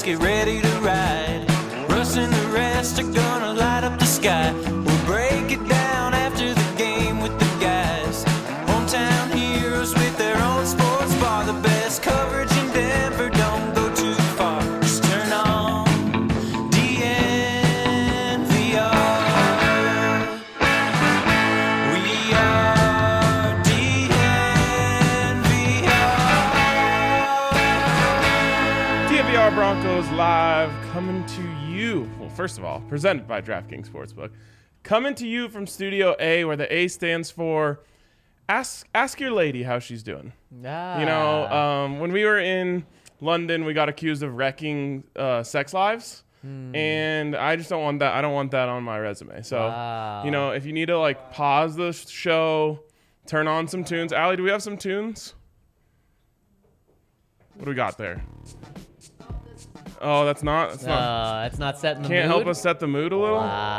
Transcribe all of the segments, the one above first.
get ready to ride. Russ and the rest are gonna light up the sky. We'll break it down after the game with the guys. Hometown heroes with their own sports bar. The best coverage in Denver, don't go too far. Just turn on DNVR. We are DNVR Broncos live, coming to you. Well, first of all, presented by DraftKings Sportsbook. Coming to you from Studio A, where the A stands for Ask Your Lady how she's doing. Ah. You know, when we were in London, we got accused of wrecking sex lives. And I just don't want that. I don't want that on my resume. So, Wow. you know, if you need to like pause the show, turn on some tunes. Allie, do we have some tunes? What do we got there? Oh, that's not. That's not setting the mood. Can't help us set the mood a little.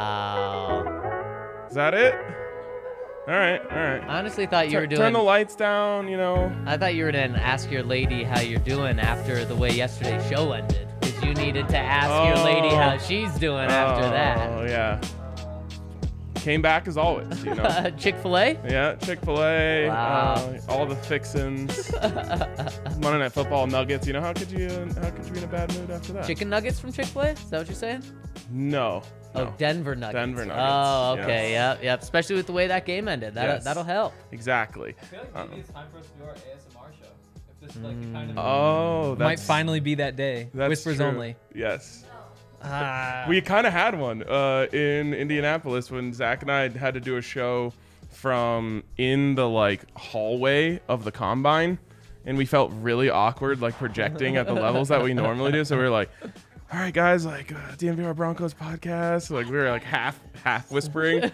Wow. Is that it? All right. I honestly thought you were doing. Turn the lights down. You know. I thought you were going to ask your lady how you're doing after the way yesterday's show ended. Because you needed to ask your lady how she's doing after that. Oh yeah. Came back as always. You know. Chick-fil-A? Yeah, Chick-fil-A. Wow. All the fixins. Monday Night Football, Nuggets. You know, how could you be in a bad mood after that? Chicken nuggets from Chick-fil-A? Is that what you're saying? No. Oh, Denver Nuggets. Denver Nuggets. Oh, okay. Yes. Yep. Especially with the way that game ended. Yes. That'll help. Exactly. I feel like maybe it's time for us to do our ASMR show. If this is like the kind of Oh, Might finally be that day. that's Whispers true. only. Yes. We kind of had one in Indianapolis when Zach and I had to do a show from in the like hallway of the combine, and we felt really awkward like projecting at the levels that we normally do. So we were like, all right, guys, like DNVR Broncos podcast. Like we were like half whispering.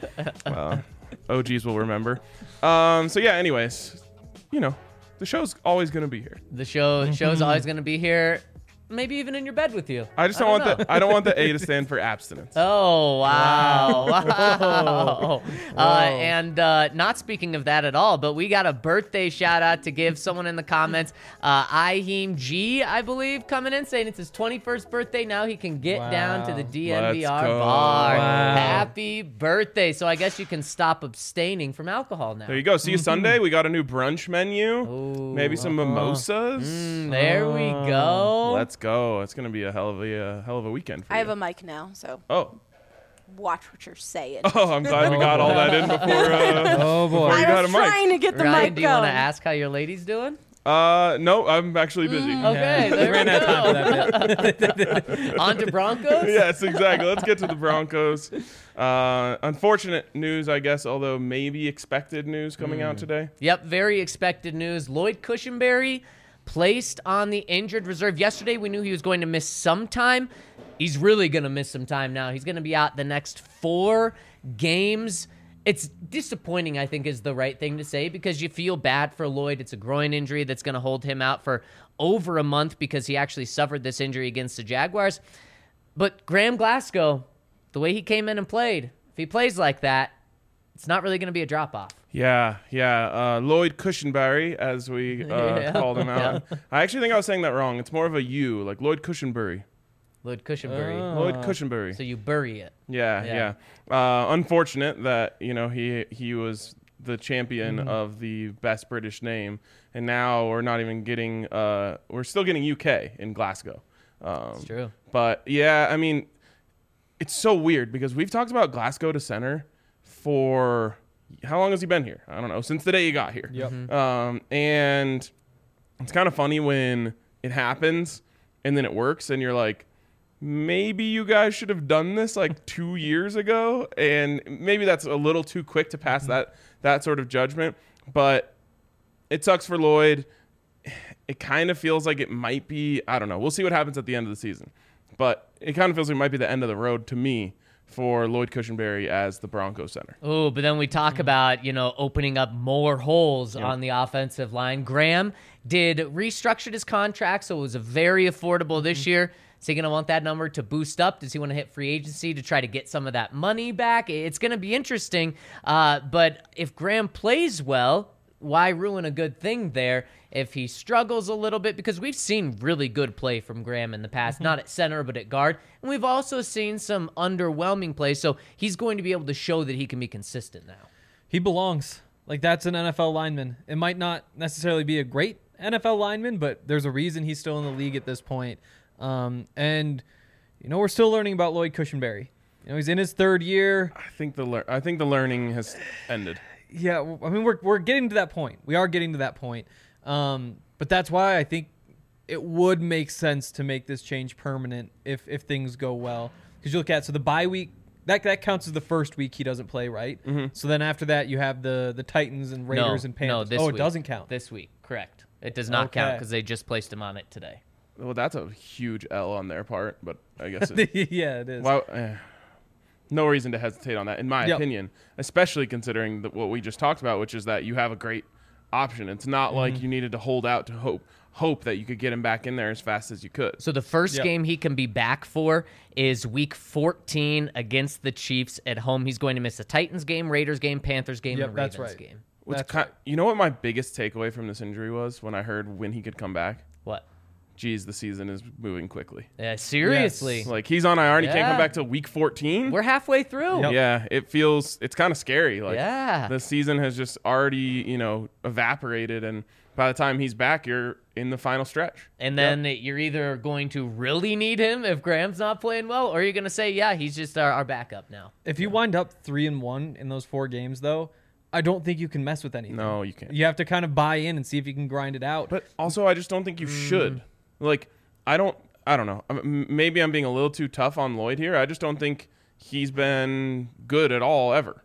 OGs will remember. So yeah, anyways, you know, the show's always gonna be here. The show's always going to be here. Maybe even in your bed with you. I just don't want the I don't want the A to stand for abstinence. Oh, wow. Wow. And not speaking of that at all, but we got a birthday shout out to give someone in the comments. Iheem G, I believe, coming in saying it's his 21st birthday. Now he can get down to the DNVR Let's go. bar. Wow. Happy birthday. So I guess you can stop abstaining from alcohol now. There you go. See you Sunday. We got a new brunch menu. Ooh. Maybe some mimosas. There we go. Let's go. It's gonna be a hell of a weekend for I you. have a mic now, so Oh, watch what you're saying. I'm glad we got all that in before. Oh boy. you I got was a mic. trying to get the Ryan, mic do you want to going. ask how your lady's doing? No, I'm actually busy. Okay, there we Ran out of time go. for that bit. On to Broncos? Yes, exactly. Let's get to the Broncos. Unfortunate news, I guess, although maybe expected news coming out today. Yep, very expected news. Lloyd Cushenberry placed on the injured reserve. Yesterday, we knew he was going to miss some time. He's really going to miss some time now. He's going to be out the next 4 games. It's disappointing, I think, is the right thing to say, because you feel bad for Lloyd. It's a groin injury that's going to hold him out for over a month because he actually suffered this injury against the Jaguars. But Graham Glasgow, the way he came in and played, if he plays like that, it's not really going to be a drop-off. Yeah. Lloyd Cushenberry, as we called him out. I actually think I was saying that wrong. It's more of a U, like Lloyd Cushenberry. Lloyd Cushenberry. Lloyd Cushenberry. So you bury it. Yeah. Unfortunate that, you know, he was the champion of the best British name, and now we're not even getting we're still getting UK in Glasgow. It's true. But yeah, I mean, it's so weird because we've talked about Glasgow to center for how long has he been here? I don't know, since the day he got here. Yep. And it's kind of funny when it happens and then it works and you're like, maybe you guys should have done this like 2 years ago, and maybe that's a little too quick to pass that sort of judgment. But it sucks for Lloyd. It kind of feels like it might be, I don't know. We'll see what happens at the end of the season. But it kind of feels like it might be the end of the road to me for Lloyd Cushenberry as the Broncos center. Oh, but then we talk about, opening up more holes on the offensive line. Graham restructured his contract, so it was a very affordable this year. Is he going to want that number to boost up? Does he want to hit free agency to try to get some of that money back? It's going to be interesting. But if Graham plays well, why ruin a good thing there if he struggles a little bit? Because we've seen really good play from Graham in the past, not at center, but at guard. And we've also seen some underwhelming play. So he's going to be able to show that he can be consistent now. He belongs. Like, that's an NFL lineman. It might not necessarily be a great NFL lineman, but there's a reason he's still in the league at this point. And, we're still learning about Lloyd Cushenberry. He's in his third year. I think the learning has ended. Yeah, I mean, we're getting to that point. We are getting to that point. But that's why I think it would make sense to make this change permanent if things go well. Because you look at, so the bye week, that counts as the first week he doesn't play, right? Mm-hmm. So then after that, you have the Titans and Raiders and Panthers. No, this week. week. It doesn't count. This week, correct. It does not count because they just placed him on it today. Well, that's a huge L on their part, but I guess yeah, it is. Well, no reason to hesitate on that, in my opinion, especially considering what we just talked about, which is that you have a great option. It's not like you needed to hold out to hope that you could get him back in there as fast as you could. So the first game he can be back for is week 14 against the Chiefs at home. He's going to miss the Titans game, Raiders game, Panthers game, and Ravens game. You know what my biggest takeaway from this injury was when I heard when he could come back? What? Geez, the season is moving quickly. Yeah, seriously. Yes. Like, he's on IR and he can't come back till week 14. We're halfway through. Yep. Yeah, it's kind of scary. Like, yeah. The season has just already, evaporated, and by the time he's back, you're in the final stretch. And then you're either going to really need him if Graham's not playing well, or you're going to say, yeah, he's just our backup now. If you wind up 3-1 in those 4 games, though, I don't think you can mess with anything. No, you can't. You have to kind of buy in and see if you can grind it out. But also, I just don't think you should. Like, I don't know. Maybe I'm being a little too tough on Lloyd here. I just don't think he's been good at all ever.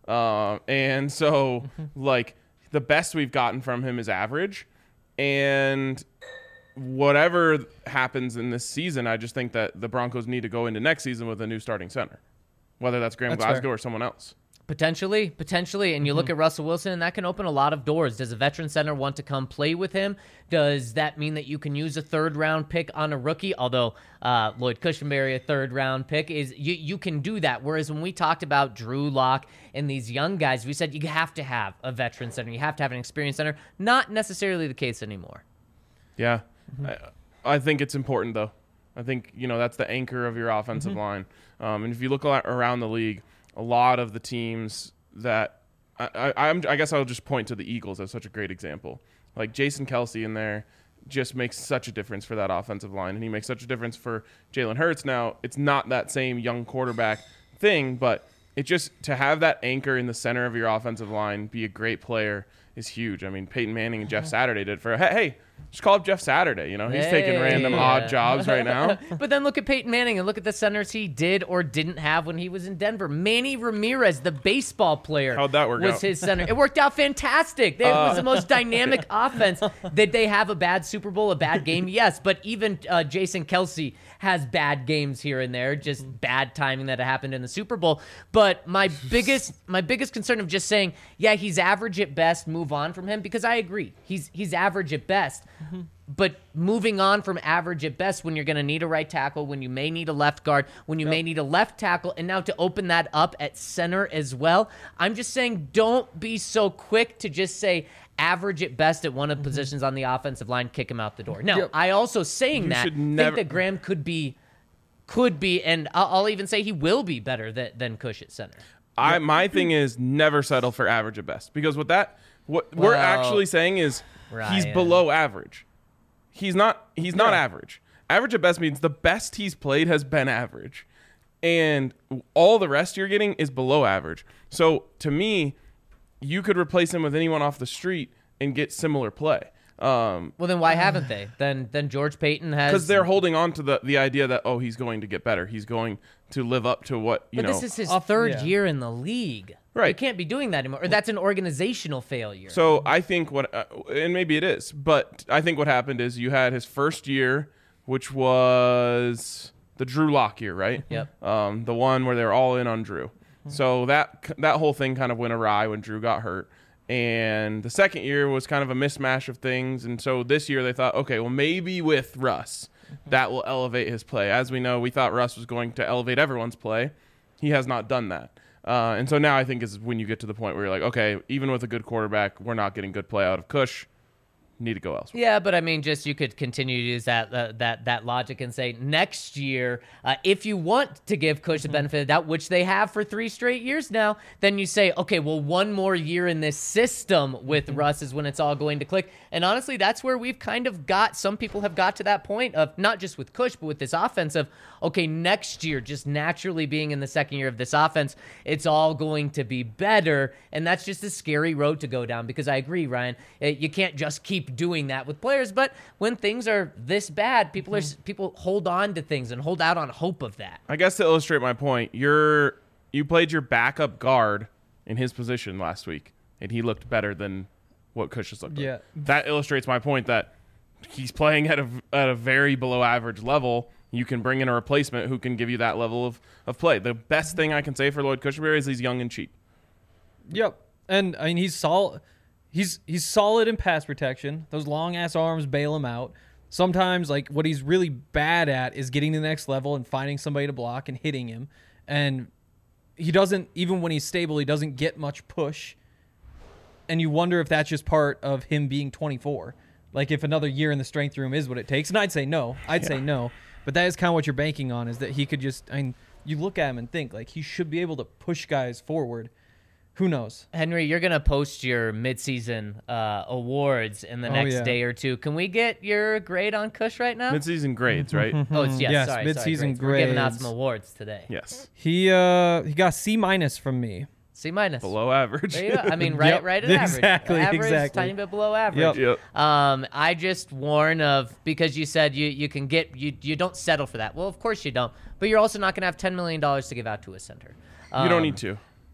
And so, like, the best we've gotten from him is average. And whatever happens in this season, I just think that the Broncos need to go into next season with a new starting center, whether that's Graham Glasgow or someone else. Potentially. And you look at Russell Wilson, and that can open a lot of doors. Does a veteran center want to come play with him? Does that mean that you can use a third-round pick on a rookie? Although Lloyd Cushenberry, a third-round pick, is you can do that. Whereas when we talked about Drew Lock and these young guys, we said you have to have a veteran center. You have to have an experienced center. Not necessarily the case anymore. Yeah. I think it's important, though. I think, that's the anchor of your offensive line. And if you look around the league, a lot of the teams that I guess I'll just point to the Eagles as such a great example. Like, Jason Kelce in there just makes such a difference for that offensive line, and he makes such a difference for Jalen Hurts. Now, it's not that same young quarterback thing, but it just to have that anchor in the center of your offensive line, be a great player, is huge. I mean, Peyton Manning and Jeff Saturday did for hey, just call up Jeff Saturday. He's taking random odd jobs right now. But then look at Peyton Manning and look at the centers he did or didn't have when he was in Denver. Manny Ramirez, the baseball player, how'd that work was out? His center. It worked out fantastic. It was the most dynamic offense. Did they have a bad Super Bowl, a bad game? Yes, but even Jason Kelce has bad games here and there, just bad timing that happened in the Super Bowl. But my biggest concern of just saying, yeah, he's average at best, move on from him, because I agree. He's average at best. But moving on from average at best when you're going to need a right tackle, when you may need a left guard, when you may need a left tackle, and now to open that up at center as well, I'm just saying don't be so quick to just say average at best at one of the positions on the offensive line, kick him out the door. Now, I also think that Graham could be, and I'll even say he will be better than Cush at center. My thing is never settle for average at best, because what we're actually saying is he's below average. He's not average. Average at best means the best he's played has been average, and all the rest you're getting is below average. So to me, you could replace him with anyone off the street and get similar play. Well, then why haven't they? Then George Payton has, because they're holding on to the idea that he's going to get better. He's going to live up to what you know. But this is his third year in the league. Right. You can't be doing that anymore. Or that's an organizational failure. So I think and maybe it is, but I think what happened is you had his first year, which was the Drew Lock year, right? Yep. The one where they're all in on Drew. So that whole thing kind of went awry when Drew got hurt. And the second year was kind of a mismatch of things. And so this year they thought, okay, well, maybe with Russ, that will elevate his play. As we know, we thought Russ was going to elevate everyone's play. He has not done that. And so now I think is when you get to the point where you're like, okay, even with a good quarterback, we're not getting good play out of Kush. Need to go elsewhere. Yeah, but I mean, just you could continue to use that logic and say next year, if you want to give Kush the benefit of the doubt, which they have for 3 straight years now, then you say, okay, well, one more year in this system with Russ is when it's all going to click. And honestly, that's where we've kind of got, some people have got to that point of not just with Kush, but with this offense of, okay, next year, just naturally being in the second year of this offense, it's all going to be better. And that's just a scary road to go down because I agree, Ryan, you can't just keep doing that with players, but when things are this bad, people hold on to things and hold out on hope of that. I guess to illustrate my point, you played your backup guard in his position last week, and he looked better than what Kush has looked like. That illustrates my point that he's playing at a very below average level. You can bring in a replacement who can give you that level of play. The best thing I can say for Lloyd Cushenberry is he's young and cheap. Yep. And I mean, he's solid. He's solid in pass protection. Those long ass arms bail him out. Sometimes, like, what he's really bad at is getting to the next level and finding somebody to block and hitting him. And he doesn't, even when he's stable, he doesn't get much push. And you wonder if that's just part of him being 24. Like, if another year in the strength room is what it takes. And I'd say no. Say no. But that is kind of what you're banking on, is that he could just, I mean, you look at him and think, like, he should be able to push guys forward. Who knows? Henry, you're going to post your midseason awards in the next day or two. Can we get your grade on Kush right now? Midseason grades, right? Oh, it's, yes, sorry, midseason grades. We're giving out grades. some awards today. Yes. He got C- from me. C-. Below average. There you go. I mean, right at exactly, average. exactly. Tiny bit below average. Yep. I just warn of, because you said you can get, you don't settle for that. Well, of course you don't. But you're also not going to have $10 million to give out to a center. You don't need to.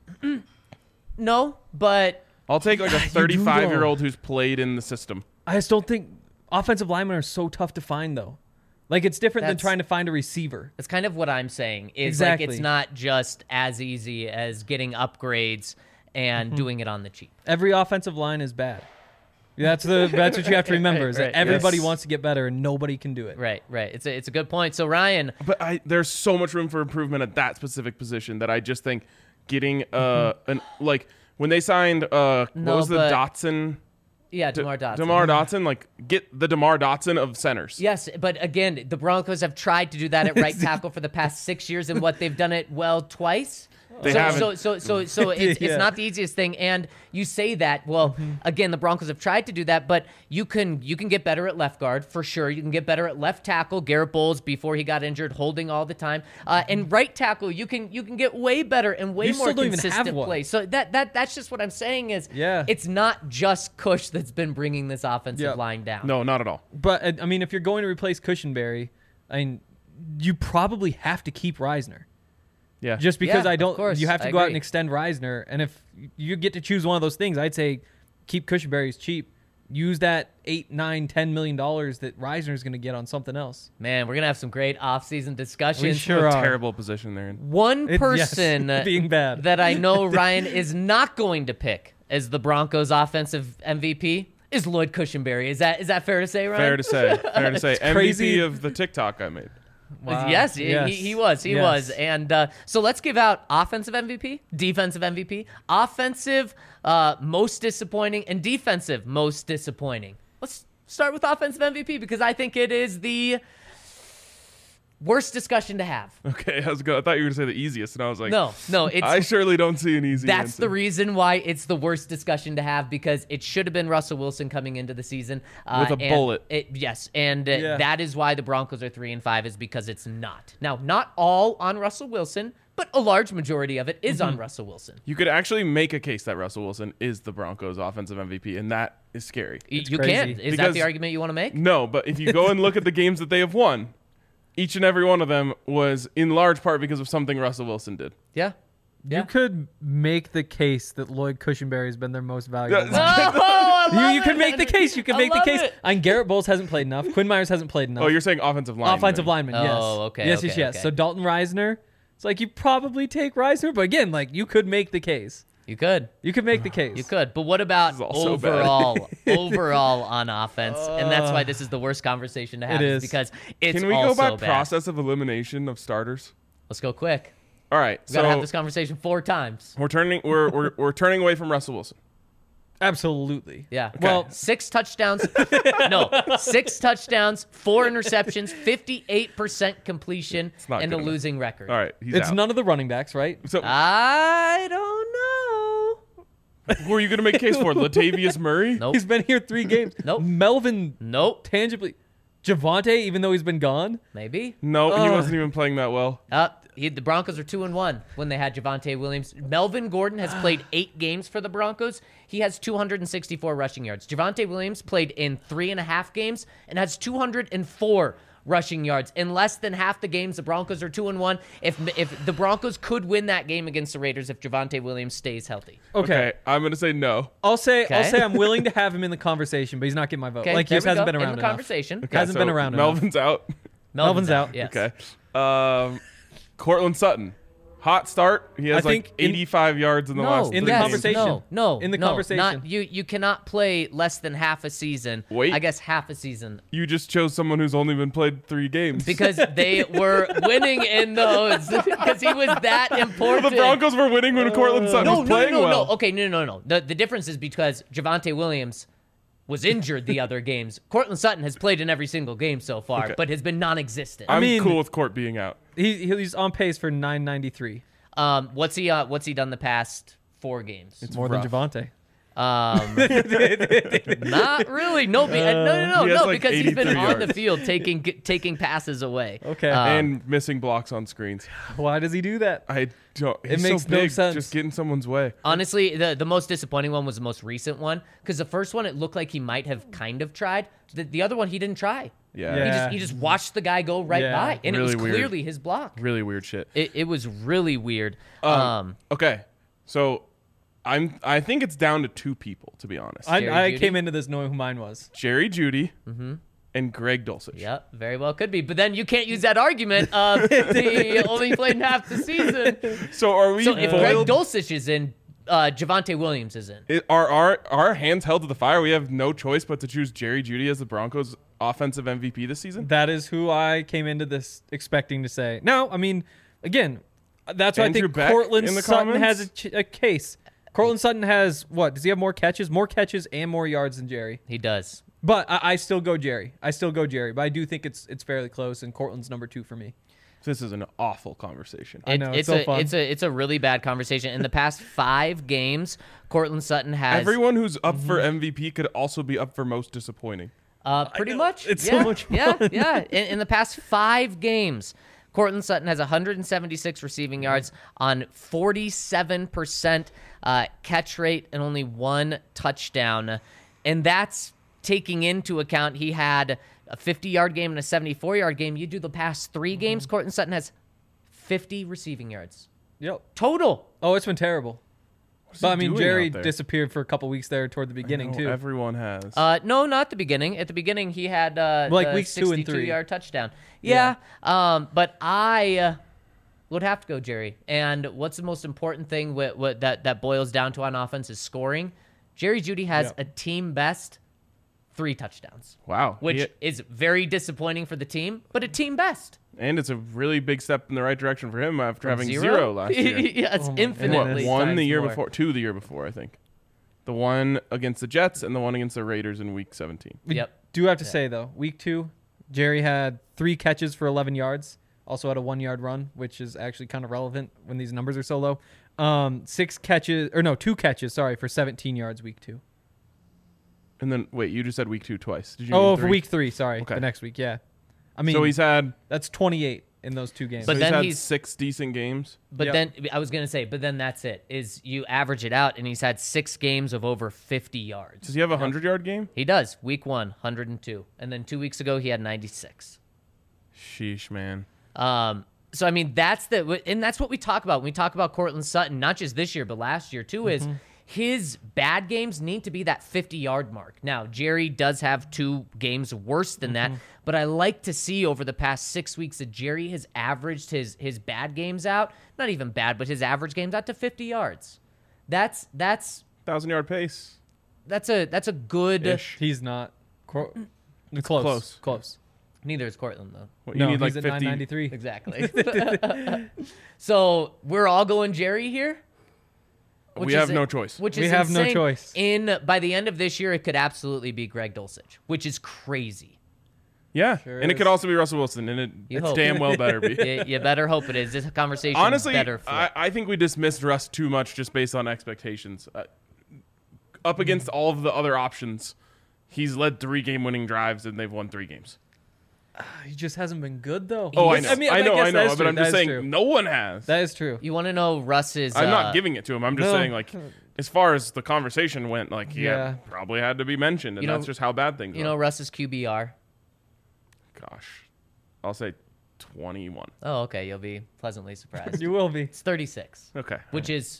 No, but I'll take like a 35-year-old who's played in the system. I just don't think offensive linemen are so tough to find, though. Like, it's different than trying to find a receiver. that's kind of what I'm saying. Is Exactly. like, it's not just as easy as getting upgrades and doing it on the cheap. Every offensive line is bad. That's what you have to remember, is that Right. everybody Yes. wants to get better and nobody can do it. Right. It's a good point. So, Ryan, But there's so much room for improvement at that specific position that I just think getting like when they signed what was the but- Dotson? yeah, DeMar Dotson. DeMar Dotson, like get the DeMar Dotson of centers. Yes, but again, the Broncos have tried to do that at right tackle for the past 6 years, and what they've done it well twice. They so, haven't. So it's Yeah. not the easiest thing, and you say that. Well, again, the Broncos have tried to do that, but you can get better at left guard for sure. You can get better at left tackle. Garrett Bowles, before he got injured, holding all the time, and right tackle, you can get way better and way You more still don't even have consistent one. play. So that's just what I'm saying is, Yeah. it's not just Kush that's been bringing this offensive Yep. line down. No, not at all. But, I mean, if you're going to replace Cushenberry, I mean, you probably have to keep Reisner. Yeah. Just because Yeah, I don't, of course, you have to I go out agree. and extend Reisner. And if you get to choose one of those things, I'd say keep Cushenberry's cheap. Use that $8, $9, $10 million that Reisner's going to get on something else. Man, we're gonna have some great off-season discussions. sure a are. terrible position they're in. One Yes, person being bad. that I know Ryan is not going to pick as the Broncos' offensive MVP is Lloyd Cushenberry. Is that fair to say, Ryan? Fair to say. Fair to say. MVP crazy. of the TikTok I made. Wow. Yes, Yes. he was. He Yes. was. And so let's give out offensive MVP, defensive MVP, offensive most disappointing, and defensive most disappointing. Let's start with offensive MVP because I think it is the worst discussion to have. Okay, I thought you were going to say the easiest, and I was like, No, it's I surely don't see an easy That's answer. the reason why it's the worst discussion to have, because it should have been Russell Wilson coming into the season With a and bullet. Yes, and Yeah. that is why the Broncos are 3-5, is because it's not. Now, not all on Russell Wilson, but a large majority of it is on Russell Wilson. You could actually make a case that Russell Wilson is the Broncos' offensive MVP, and that is scary. You crazy. can. Is that Because- the argument you want to make? No, but if you go and look at the games that they have won, each and every one of them was in large part because of something Russell Wilson did. Yeah. Yeah. You could make the case that Lloyd Cushenberry has been their most valuable. Yeah. lineman. Oh, I love You can it. make the case. You can I make the love case. it. And Garrett Bowles hasn't played enough. Quinn Myers hasn't played enough. Oh, you're saying offensive line. offensive lineman. Yes. Oh, okay, Yes, okay, yes, yes. okay. So Dalton Reisner. It's like you probably take Reisner, but again, like you could make the case. You could. You could make the case. You could. But what about This is all so bad. overall on offense? And that's why this is the worst conversation to have, It is is. because it's Can we go also by bad. process of elimination of starters? Let's go quick. All right. We gotta have So this conversation 4 times. we're turning away from Russell Wilson. Absolutely. Yeah. Well, 6 touchdowns. No, 6 touchdowns, 4 interceptions, 58% completion, not and a good enough. losing record. All right. He's it's out. none of the running backs, right? So I don't know. who are you going to make a case for? Latavius Murray? Nope. He's been here 3 games. Nope. Melvin Nope. tangibly. Javante, even though he's been gone. Maybe. No, he wasn't even playing that well. The Broncos are 2-1 when they had Javante Williams. Melvin Gordon has played 8 games for the Broncos. He has 264 rushing yards. Javante Williams played in 3.5 games and has 204 rushing yards. In less than half the games, the Broncos are 2-1. If the Broncos could win that game against the Raiders if Javante Williams stays healthy. Okay. I'm going to say no. I'll say Okay. I'm willing to have him in the conversation, but he's not getting my vote. Okay, Like he there just we hasn't go. been around in the enough. conversation. Okay, Hasn't been around enough. Melvin's out. Melvin's out. Yes. Okay. Cortland Sutton. Hot start. He has I think 85 yards in the No, last in three the yes, games. conversation. No, In the no, conversation. Not, you cannot play less than half a season. Wait. I guess half a season. You just chose someone who's only been played 3 games. Because they were winning in those. Because he was that important. the Broncos were winning when Cortland Sutton was playing well. No. Okay, no. The difference is because Javante Williams was injured the other games. Cortland Sutton has played in every single game so far, Okay. but has been non-existent. I'm mean- cool with Court being out. He's on pace for 993. What's he done the past 4 games? It's More rough. than Javante. Not really. No, he has like because he's been 83 on the yards. field taking passes away. Okay. And missing blocks on screens. Why does he do that? I don't. He's makes so no big, sense. Just get in someone's way. Honestly, the most disappointing one was the most recent one because the first one it looked like he might have kind of tried. The other one he didn't try. Yeah. Yeah. He just watched the guy go right Yeah. by, and Really it was weird. clearly his block. Really weird shit. It was really weird. Okay. So I think it's down to 2 people, to be honest. Jerry I Jeudy? came into this knowing who mine was. Jerry Jeudy and Greg Dulcich. Yep, very well could be. But then you can't use that argument of he only played in half the season. So are we So if Greg boiled? Dulcich is in, Javante Williams is in. Are our hands held to the fire? We have no choice but to choose Jerry Jeudy as the Broncos' offensive MVP this season? That is who I came into this expecting to say. No, I mean, again, that's why I Andrew think Beck Cortland in the Sutton comments? has a case. Cortland Sutton has what? Does he have more catches? More catches and more yards than Jerry. He does. But I still go Jerry. But I do think it's fairly close, and Cortland's number 2 for me. This is an awful conversation. I know, it's so fun. It's a really bad conversation. In the past 5 games, Cortland Sutton has Everyone who's up for MVP could also be up for most disappointing. pretty much. It's yeah, so much fun. Yeah. In the past 5 games, Cortland Sutton has 176 receiving yards on 47% catch rate and only 1 touchdown. And that's taking into account he had a 50-yard game and a 74-yard game. You do the past 3 games, Cortland Sutton has 50 receiving yards. Yep. Total. Oh, it's been terrible. But I mean, doing Jerry out there? disappeared for a couple weeks there toward the beginning No, too. Everyone has. No, not the beginning. At the beginning, he had Like the weeks 2 and 3. 62-yard touchdown. Yeah. But I would have to go Jerry. And what's the most important thing that boils down to on offense is scoring. Jerry Jeudy has a team best 3 touchdowns, Wow. which is very disappointing for the team, but a team best. And it's a really big step in the right direction for him after having Zero? 0 last year. Yeah, it's Oh my infinitely. What, 1 the times year more. before, 2 the year before, I think. The one against the Jets and the one against the Raiders in Week 17. We Yep. do have to say though, week 2, Jerry had 3 catches for 11 yards. Also had a 1-yard run, which is actually kind of relevant when these numbers are so low. 2 catches, sorry, for 17 yards week 2. And then, wait, you just said Week 2 twice. Did you Oh, mean for 3? week 3, sorry, Okay. the next week, yeah. I mean, So he's had, that's 28 in those 2 games. But so then had he's- 6 decent games. But Yep. then I was gonna say, but then that's it. Is you average it out, and he's had 6 games of over 50 yards. Does he have a 100-yard game? He does. Week 1, 102, and then 2 weeks ago he had 96. Sheesh, man. So I mean that's what we talk about when we talk about Cortland Sutton, not just this year but last year too. Is his bad games need to be that 50-yard mark. Now Jerry does have 2 games worse than that, but I like to see over the past 6 weeks that Jerry has averaged his bad games out, not even bad, but his average games out to 50 yards. That's 1,000-yard pace. a good. Ish. he's not. Close. Close. Close. Neither is Cortland though. What, No, you need like he's at 50. 993. Exactly. So we're all going Jerry here. We have no choice. Which We is have no insane. choice. By the end of this year, it could absolutely be Greg Dulcich, which is crazy. Yeah, Sure and it is. could also be Russell Wilson, and You it's hope. damn well better be. You better hope it is. This conversation Honestly, better flip. I think we dismissed Russ too much just based on expectations. Up against all of the other options, he's led 3 game-winning drives, and they've won 3 games. He just hasn't been good though. Oh, I know. I mean, I guess know. that is But true. I'm That just is saying true. no one has. That is true. You want to know Russ's? I'm not giving it to him. I'm just No. saying, like, as far as the conversation went, like, Yeah. probably had to be mentioned, and You know- that's just how bad things You are. know Russ's QBR. Gosh, I'll say 21. Oh, okay. You'll be pleasantly surprised. You will be. It's 36, Okay. which is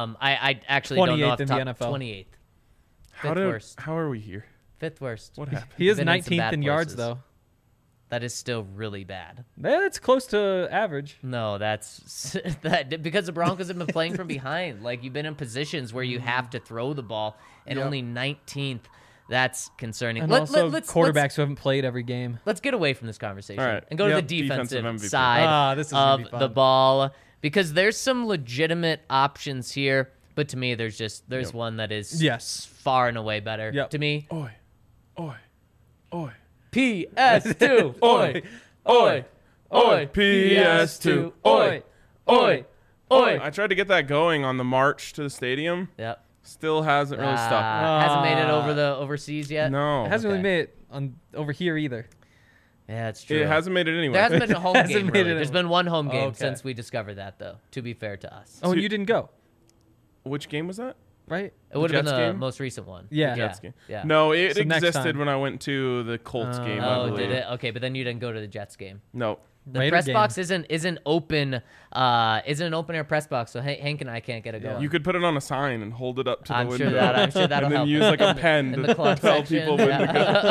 I actually don't know 28th off the in the top. NFL. 28th. How Fifth worst. How are we here? 5th worst. What happened? He is Been in some 19th bad in yards places. though. That is still really bad. That's close to average. No, that's that because the Broncos have been playing from behind. Like you've been in positions where you have to throw the ball, and Yep. only 19th. That's concerning. And Let- also let's- quarterbacks who haven't played every game. Let's get away from this conversation All right. and go Yep. to the defensive, Defensive MVP. side This is gonna of be fun. the ball because there's some legitimate options here, but to me, there's Yep. one that is Yes. far and away better. Yep. To me, Oi, oi, oi, PS2, oi, oi, oi, PS2, oi, oi, oi. I tried to get that going on the march to the stadium. Yep. Still hasn't really stuck. Hasn't made it over the overseas yet. No, It hasn't Okay. really made it on over here either. Yeah, it's true. it hasn't made it anywhere. There hasn't been a home Hasn't game. made Really. it There's in- been one home game Okay. since we discovered that, though. To be fair to us, Oh, and you didn't go, Which game was that? right? it would have been Jets the game? most recent one. Yeah. Jets game. Yeah. No, it So next existed time. when I went to the Colts game. I Oh, believe. did it? Okay, but then you didn't go to the Jets game. No. The Raider press game. box isn't open. Isn't an open air press box, so Hank and I can't get it going. You could put it on a sign and hold it up to I'm the sure window. I'm sure that'll and then help. use like a pen in to the club tell section. people when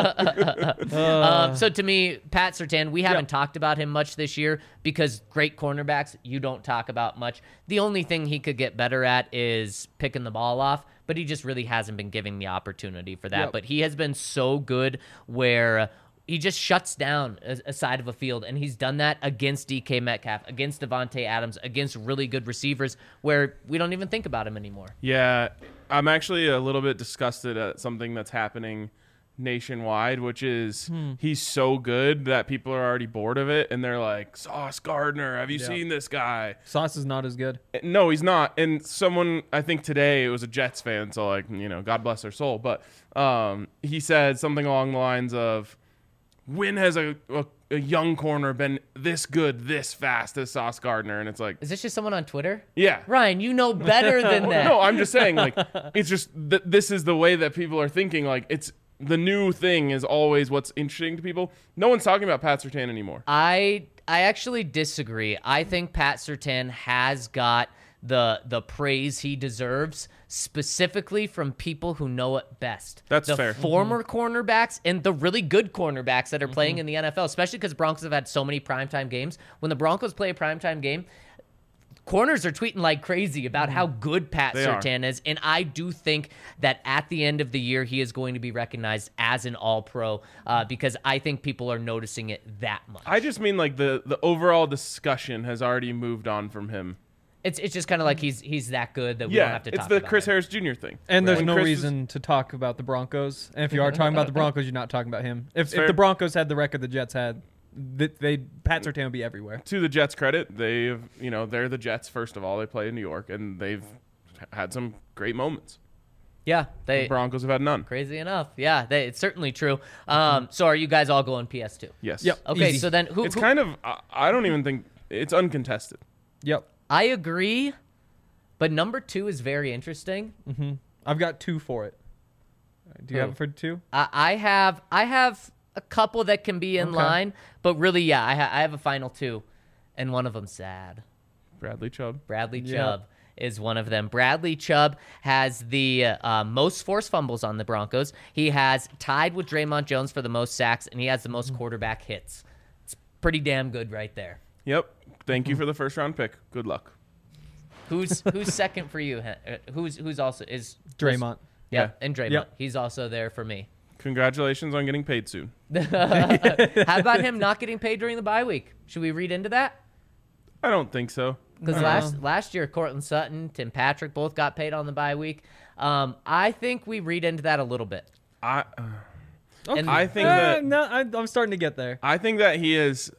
to go. So to me, Pat Surtain, we haven't talked about him much this year because great cornerbacks you don't talk about much. The only thing he could get better at is picking the ball off, but he just really hasn't been given the opportunity for that. Yep. But he has been so good where he just shuts down a side of a field, and he's done that against DK Metcalf, against Devontae Adams, against really good receivers where we don't even think about him anymore. Yeah, I'm actually a little bit disgusted at something that's happening nationwide, which is he's so good that people are already bored of it, and they're like, Sauce Gardner, have you seen this guy? Sauce is not as good. No, he's not. And someone, I think today, it was a Jets fan, so like, God bless their soul, but he said something along the lines of, when has a young corner been this good, this fast as Sauce Gardner? And it's like, Is this just someone on Twitter? yeah. Ryan, you know better than that. No, I'm just saying, like, it's just this is the way that people are thinking. Like, it's the new thing is always what's interesting to people. No one's talking about Pat Surtain anymore. I actually disagree. I think Pat Surtain has got the praise he deserves, specifically from people who know it best. That's the fair. former cornerbacks and the really good cornerbacks that are playing in the NFL, especially because Broncos have had so many primetime games. When the Broncos play a primetime game, corners are tweeting like crazy about how good Pat They are. Surtain is, and I do think that at the end of the year, he is going to be recognized as an All-Pro because I think people are noticing it that much. I just mean like the overall discussion has already moved on from him. It's just kind of like he's that good that we don't Yeah, have to it's talk the about Chris him. Harris Jr. thing. And there's When no Chris was- reason to talk about the Broncos. And if you are talking about the Broncos, you're not talking about him. If fair. the Broncos had the record the Jets had, Pat Surtain would be everywhere. To the Jets' credit, they've they're the Jets. First of all, they play in New York, and they've had some great moments. Yeah, The they Broncos have had none. crazy enough. Yeah, it's certainly true. So are you guys all going PS2? Yes. Yep. Okay, Easy. so then who? It's who- kind of. I don't even think it's uncontested. Yep. I agree, but number 2 is very interesting. I've got 2 for it. Do you Who? have it for 2? I have a couple that can be in Okay. line, but really, yeah, I have a final 2, and one of them sad. Bradley Chubb. Bradley Yeah. Chubb is one of them. Bradley Chubb has the most forced fumbles on the Broncos. He has tied with Draymond Jones for the most sacks, and he has the most quarterback hits. It's pretty damn good right there. Yep. Thank you for the first round pick. Good luck. Who's second for you? Who's also is Draymond. Yeah, Yeah. and Draymond. Yep. He's also there for me. Congratulations on getting paid soon. How about him not getting paid during the bye week? Should we read into that? I don't think so. Because last year, Cortland Sutton, Tim Patrick both got paid on the bye week. I think we read into that a little bit. I And- I think that no, I'm starting to get there. I think that he is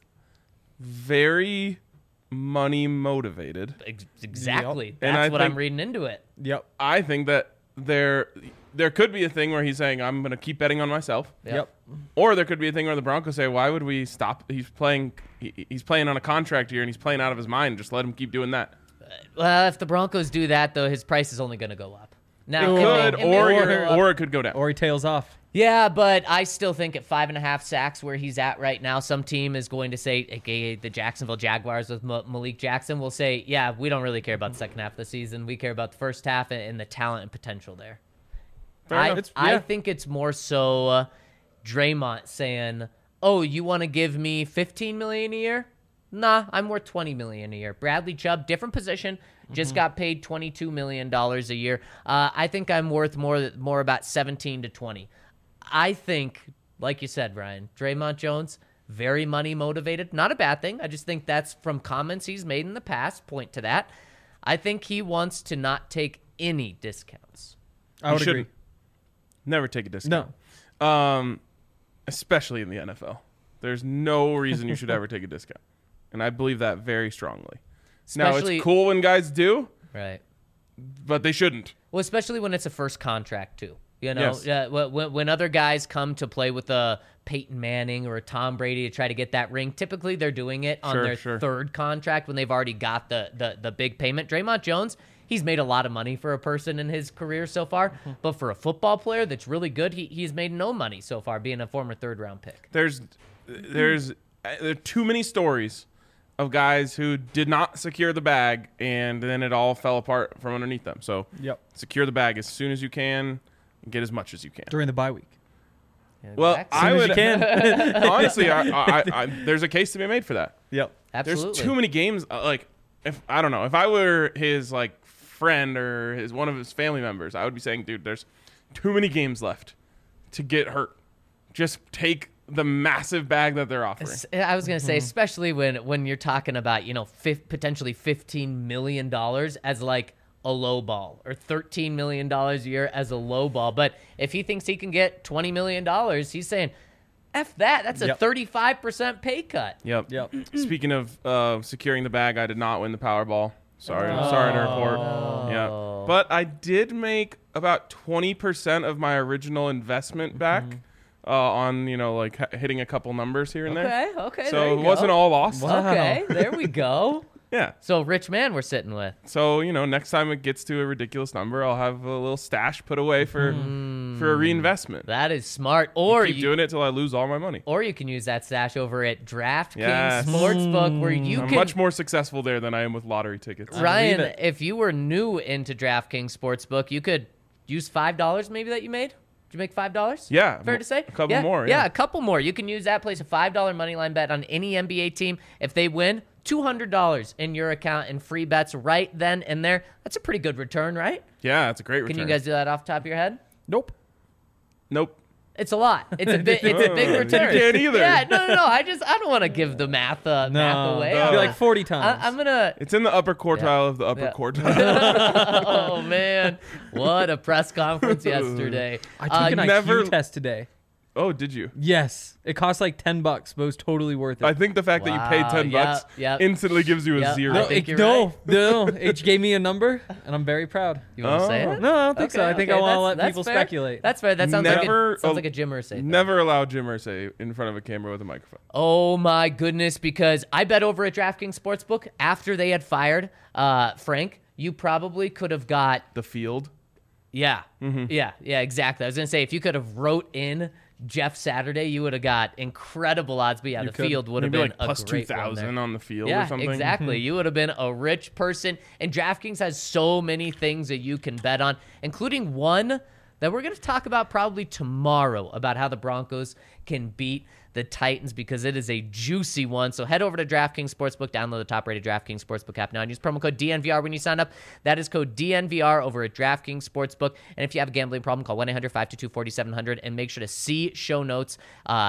very money motivated. Exactly. And That's I what I'm think- reading into it. Yep. I think that there could be a thing where he's saying, I'm going to keep betting on myself. Yep. Or there could be a thing where the Broncos say, why would we stop? He's playing on a contract here and he's playing out of his mind. Just let him keep doing that. Well, if the Broncos do that, though, his price is only going to go up. Now, It could, it may go up. or it could go down. Or he tails off. Yeah, but I still think at 5.5 sacks where he's at right now, some team is going to say, aka the Jacksonville Jaguars with Malik Jackson, will say, yeah, we don't really care about the second half of the season. We care about the first half and the talent and potential there. Fair enough. I think it's more so Draymond saying, oh, you want to give me $15 million a year? Nah, I'm worth $20 million a year. Bradley Chubb, different position, just got paid $22 million a year. I think I'm worth more about 17 to 20. I think, like you said, Ryan, Draymond Jones, very money motivated. Not a bad thing. I just think that's from comments he's made in the past, point to that. I think he wants to not take any discounts. I would You agree. shouldn't. Never take a discount. No. Especially in the NFL. There's no reason you should ever take a discount. And I believe that very strongly. Now, Especially- it's cool when guys do, Right. but they shouldn't. Well, especially when it's a first contract, too. You know, Yes. when other guys come to play with a Peyton Manning or a Tom Brady to try to get that ring, typically they're doing it on their third contract when they've already got the big payment. Draymond Jones, he's made a lot of money for a person in his career so far, but for a football player that's really good, he's made no money so far being a former third-round pick. There are too many stories of guys who did not secure the bag and then it all fell apart from underneath them. So Yep. secure the bag as soon as you can and get as much as you can. During the bye week. Well, Exactly. I As would you can. honestly, I there's a case to be made for that. Yep. Absolutely. There's too many games. Like, if I don't know, if I were his like friend or one of his family members, I would be saying, dude, there's too many games left to get hurt. Just take the massive bag that they're offering. I was going to say, especially when you're talking about, potentially $15 million as like a low ball or $13 million a year as a low ball. But if he thinks he can get $20 million, he's saying, F that. That's a Yep. 35% pay cut. Yep. Yep. Speaking of securing the bag, I did not win the Powerball. Sorry to report. Yeah, but I did make about 20% of my original investment back on hitting a couple numbers here and there. Okay. So there you it wasn't go. all lost. Okay, there we go. Yeah. So rich man we're sitting with. So next time it gets to a ridiculous number, I'll have a little stash put away for a reinvestment. That is smart. Or Keep doing it till I lose all my money. Or you can use that stash over at DraftKings Yes. Sportsbook where you I'm can much more successful there than I am with lottery tickets. Ryan, believe it. if you were new into DraftKings Sportsbook, you could use $5 maybe that you made. Did you make $5? Yeah, Fair to say? a couple more, yeah. a couple more. You can use that, place a $5 money line bet on any NBA team. If they win, $200 in your account and free bets right then and there. That's a pretty good return, right? Yeah, that's a great return. Can you guys do that off the top of your head? Nope. Nope. It's a lot. It's a big return. You can't either. Yeah, no. I don't want to give the math away. no. It'd be like 40 times. I'm gonna. It's in the upper quartile of the upper Yeah. quartile. Oh man, what a press conference yesterday. I took an never- IQ test today. Oh, did you? Yes. It cost like $10, but it was totally worth it. I think the fact that you paid Wow, $10 yep, yep. instantly gives you a Yep. zero. I no, think you're no, right. no. It gave me a number, and I'm very proud. You want to say it? No, I don't think so. I think I want to let that's people fair. speculate. That's fair. That sounds Never- like a Jim Irsay thing. Never allow Jim Irsay in front of a camera with a microphone. Oh my goodness! Because I bet over at DraftKings Sportsbook after they had fired Frank, you probably could have got The field. yeah, exactly. I was gonna say if you could have wrote in Jeff Saturday, you would have got incredible odds. But yeah, the could. field would have Maybe been like plus a great one there. 2,000 on the field Yeah, or something. exactly. You would have been a rich person. And DraftKings has so many things that you can bet on, including one that we're going to talk about probably tomorrow about how the Broncos can beat the Titans because it is a juicy one. So head over to DraftKings Sportsbook, download the top-rated DraftKings Sportsbook app now, and use promo code DNVR when you sign up. That is code DNVR over at DraftKings Sportsbook. And if you have a gambling problem, call 1-800-522-4700 and make sure to see show notes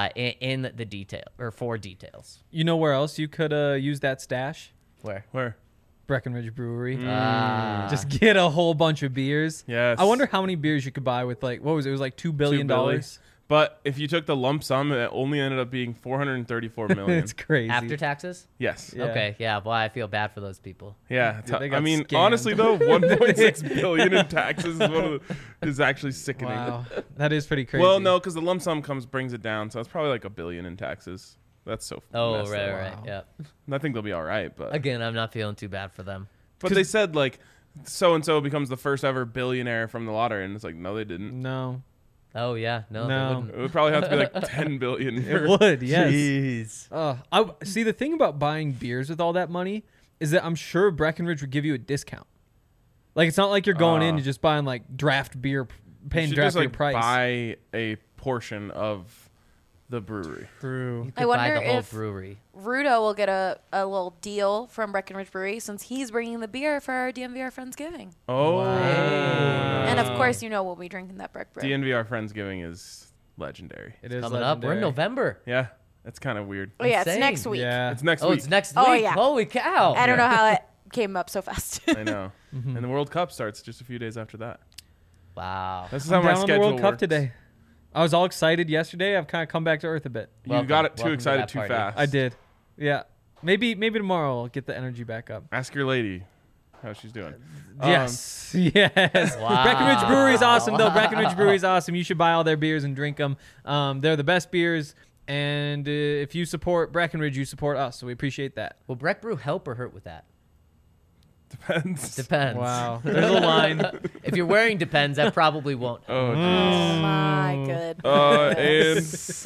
in the detail or for details. You know where else you could use that stash? Where? Breckenridge Brewery. Just get a whole bunch of beers. Yes. I wonder how many beers you could buy with like, what was it? It was like $2 billion. But if you took the lump sum, it only ended up being $434 million. It's crazy. After taxes? Yes. Yeah. Okay, yeah. Well, I feel bad for those people. Yeah. Dude, they got I mean, scammed. honestly though, 1.6 billion in taxes is actually sickening. Wow. That is pretty crazy. Well, no, because the lump sum brings it down, so it's probably like $1 billion in taxes. That's so. Oh, messed right, up. right. Wow. Yeah. I think they'll be all right, but Again, I'm not feeling too bad for them. but they said like so and so becomes the first ever billionaire from the lottery, and it's like no, they didn't. No. Oh, yeah. No, they No. wouldn't. It would probably have to be like 10 billion. It would, yes. Jeez. I see the thing about buying beers with all that money is that I'm sure Breckenridge would give you a discount. Like it's not like you're going in and just buying like draft beer, You paying should draft just beer like price. buy a portion of the brewery. True. You I could buy wonder the whole if- brewery. Rudo will get a little deal from Breckenridge Brewery since he's bringing the beer for our DMVR Friendsgiving. Oh, And of course, you know we'll be drinking that Breck Brew. DNVR Friendsgiving is legendary. It is Coming up. We're in legendary. November. Yeah, it's kind of weird. Oh yeah, it's Insane. next week. Yeah. It's next Oh, week. it's next Oh, week. yeah. Holy cow. I don't know how it came up so fast. I know. And the World Cup starts just a few days after that. Wow. This is I'm how my down on the schedule World Cup works. today. I was all excited yesterday. I've kind of come back to earth a bit. You Welcome. got it too Welcome to excited that too party. fast. I did. Yeah. Maybe tomorrow I'll get the energy back up. Ask your lady how she's doing. Yes. Yes. Wow. Breckenridge Brewery's awesome, though. Breckenridge Brewery's awesome. You should buy all their beers and drink them. They're the best beers. And if you support Breckenridge, you support us. So we appreciate that. Will Breck Brew help or hurt with that? Depends. Depends. Wow. There's a line. If you're wearing Depends, that probably won't. Oh, Oh jeez. my good. And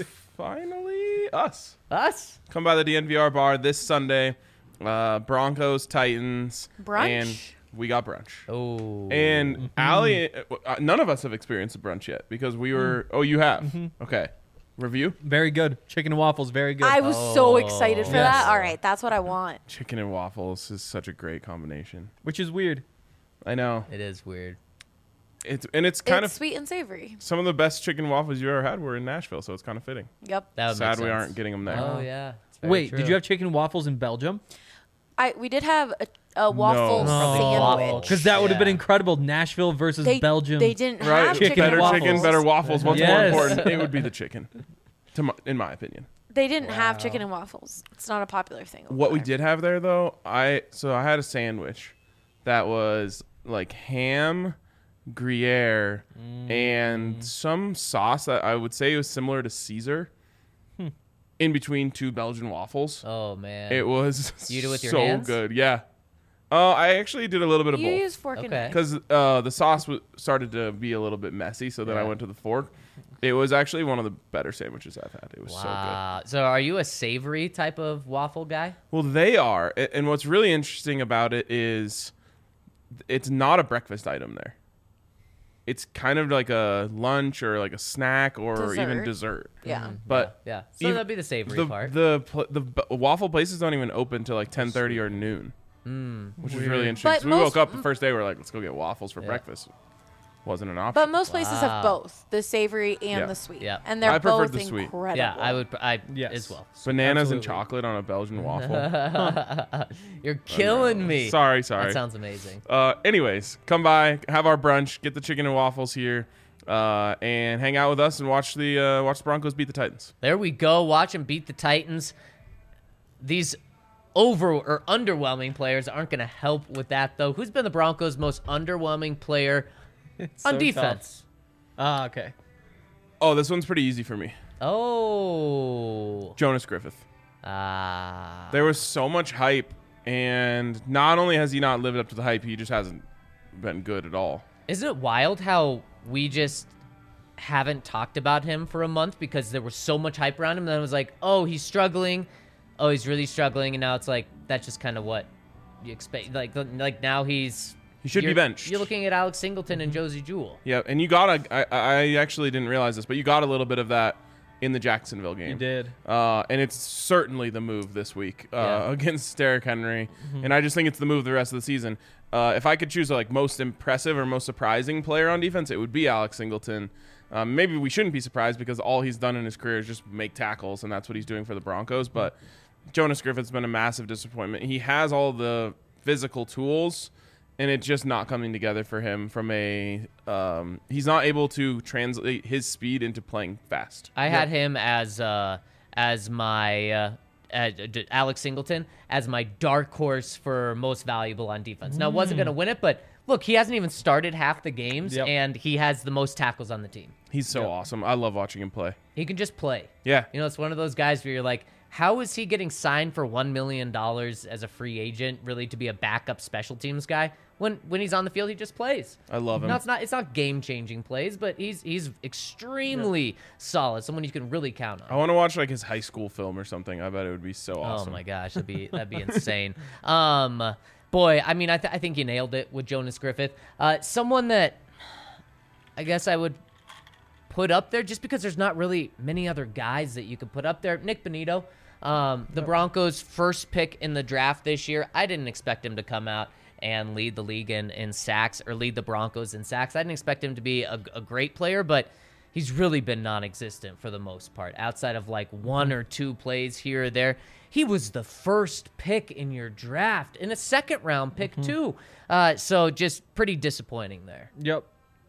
finally, us. Us? Come by the DNVR bar this Sunday. Broncos, Titans. Brunch? And we got brunch. Oh. And Allie, none of us have experienced a brunch yet because we were. Oh, you have? Okay. Review? Very good. Chicken and waffles, very good. I was so excited for Yes. that. All right, that's what I want. Chicken and waffles is such a great combination. Which is weird. I know. It is weird. It's kind It's of sweet and savory. some of the best chicken waffles you ever had were in Nashville, so it's kind of fitting. Yep. That would Sad make we sense. aren't getting them there. Oh, yeah. It's very Wait, true. did you have chicken and waffles in Belgium? We did have a waffle No. Waffle. sandwich. Because that would have been Yeah. incredible. Nashville versus Belgium. They didn't Right, have Chicken chicken, better and waffles. chicken, better waffles. What's more Yes. important? It would be the chicken, in my opinion. They didn't have chicken and waffles. It's not a popular thing. over What we there. did have there though, I had a sandwich that was like ham, Gruyere, and some sauce that I would say was similar to Caesar. In between two Belgian waffles, Oh, man. it was You did it with your so hands? good. Yeah. I actually did a little bit of You both. use fork and Okay. knife. Because the sauce started to be a little bit messy, so then I Yeah. went to the fork. It was actually one of the better sandwiches I've had. It was so good. Wow. So are you a savory type of waffle guy? Well, they are. And what's really interesting about it is it's not a breakfast item there. It's kind of like a lunch or like a snack or even Dessert. dessert. Yeah. But Yeah. So even- that'd be the savory the, part. the waffle places don't even open till like 10:30 or noon, which is really interesting. But So we woke most- up the first day. We're like, let's go get waffles for Yeah. breakfast. Wasn't an option. But most places Wow. have both the savory and Yeah. the sweet. Yeah. And they're I preferred both the sweet. incredible. yeah, I Yes. as well. Bananas and Absolutely. chocolate on a Belgian waffle. You're killing me. Sorry. That sounds amazing. Anyways, come by, have our brunch, get the chicken and waffles here, and hang out with us and watch the Broncos beat the Titans. There we go. Watch them beat the Titans. These over or underwhelming players aren't going to help with that, though. Who's been the Broncos' most underwhelming player It's on so defense? tough. Okay. Oh, this one's pretty easy for me. Oh. Jonas Griffith. Ah. There was so much hype, and not only has he not lived up to the hype, he just hasn't been good at all. Isn't it wild how we just haven't talked about him for a month because there was so much hype around him? And then it was like, oh, he's struggling. Oh, he's really struggling. And now it's like, that's just kind of what you expect. Like now He should be you're- benched. You're looking at Alex Singleton and Josie Jewell. Yeah, and you got I actually didn't realize this, but you got a little bit of that in the Jacksonville game. He did. And it's certainly the move this week against Derrick Henry. And I just think it's the move the rest of the season. If I could choose a most impressive or most surprising player on defense, it would be Alex Singleton. Maybe we shouldn't be surprised because all he's done in his career is just make tackles, and that's what he's doing for the Broncos. But Jonas Griffith's been a massive disappointment. He has all the physical tools, and it's just not coming together for him from a he's not able to translate his speed into playing fast. I had him as my Alex Singleton as my dark horse for most valuable on defense. Now, wasn't going to win it, but look, he hasn't even started half the games, and he has the most tackles on the team. He's so awesome. I love watching him play. He can just play. Yeah. You know, it's one of those guys where you're like, how is he getting signed for $1 million as a free agent, really, to be a backup special teams guy? When he's on the field, he just plays. I love him. No, it's not game-changing plays, but he's extremely solid, someone you can really count on. I want to watch his high school film or something. I bet it would be so awesome. Oh my gosh, that'd be insane. Boy, I mean, I think you nailed it with Jonas Griffith. Someone that I guess I would put up there just because there's not really many other guys that you could put up there. Nick Bonito, the Broncos' first pick in the draft this year. I didn't expect him to come out and lead the league in sacks or lead the Broncos in sacks. I didn't expect him to be a great player, but he's really been non-existent for the most part. Outside of one or two plays here or there, he was the first pick in your draft, in a second-round pick too. So just pretty disappointing there. Yep.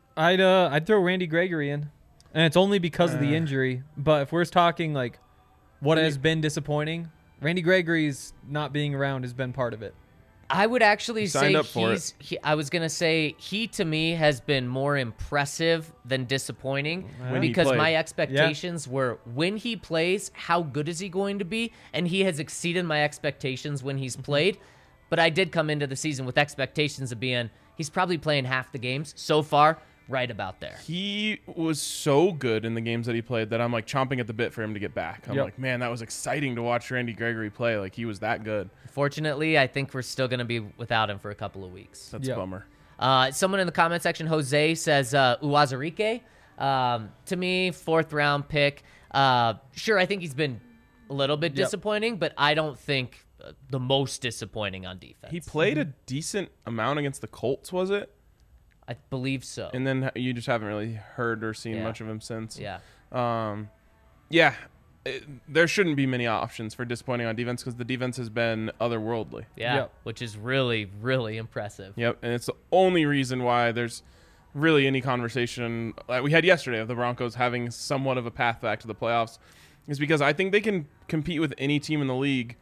I'd throw Randy Gregory in, and it's only because of the injury. But if we're talking what has been disappointing, Randy Gregory's not being around has been part of it. I would actually say I was going to say he, to me, has been more impressive than disappointing because my expectations were when he plays, how good is he going to be? And he has exceeded my expectations when he's played. But I did come into the season with expectations of being he's probably playing half the games so far, right about there. He was so good in the games that he played that I'm chomping at the bit for him to get back. I'm man, that was exciting to watch Randy Gregory play. He was that good. Fortunately, I think we're still going to be without him for a couple of weeks. That's a bummer. Someone in the comment section, Jose, says Uwazurike. To me, 4th-round pick. Sure, I think he's been a little bit disappointing, but I don't think the most disappointing on defense. He played a decent amount against the Colts, was it? I believe so. And then you just haven't really heard or seen much of him since. Yeah. There shouldn't be many options for disappointing on defense because the defense has been otherworldly. Yeah, which is really, really impressive. Yep, and it's the only reason why there's really any conversation we had yesterday of the Broncos having somewhat of a path back to the playoffs is because I think they can compete with any team in the league.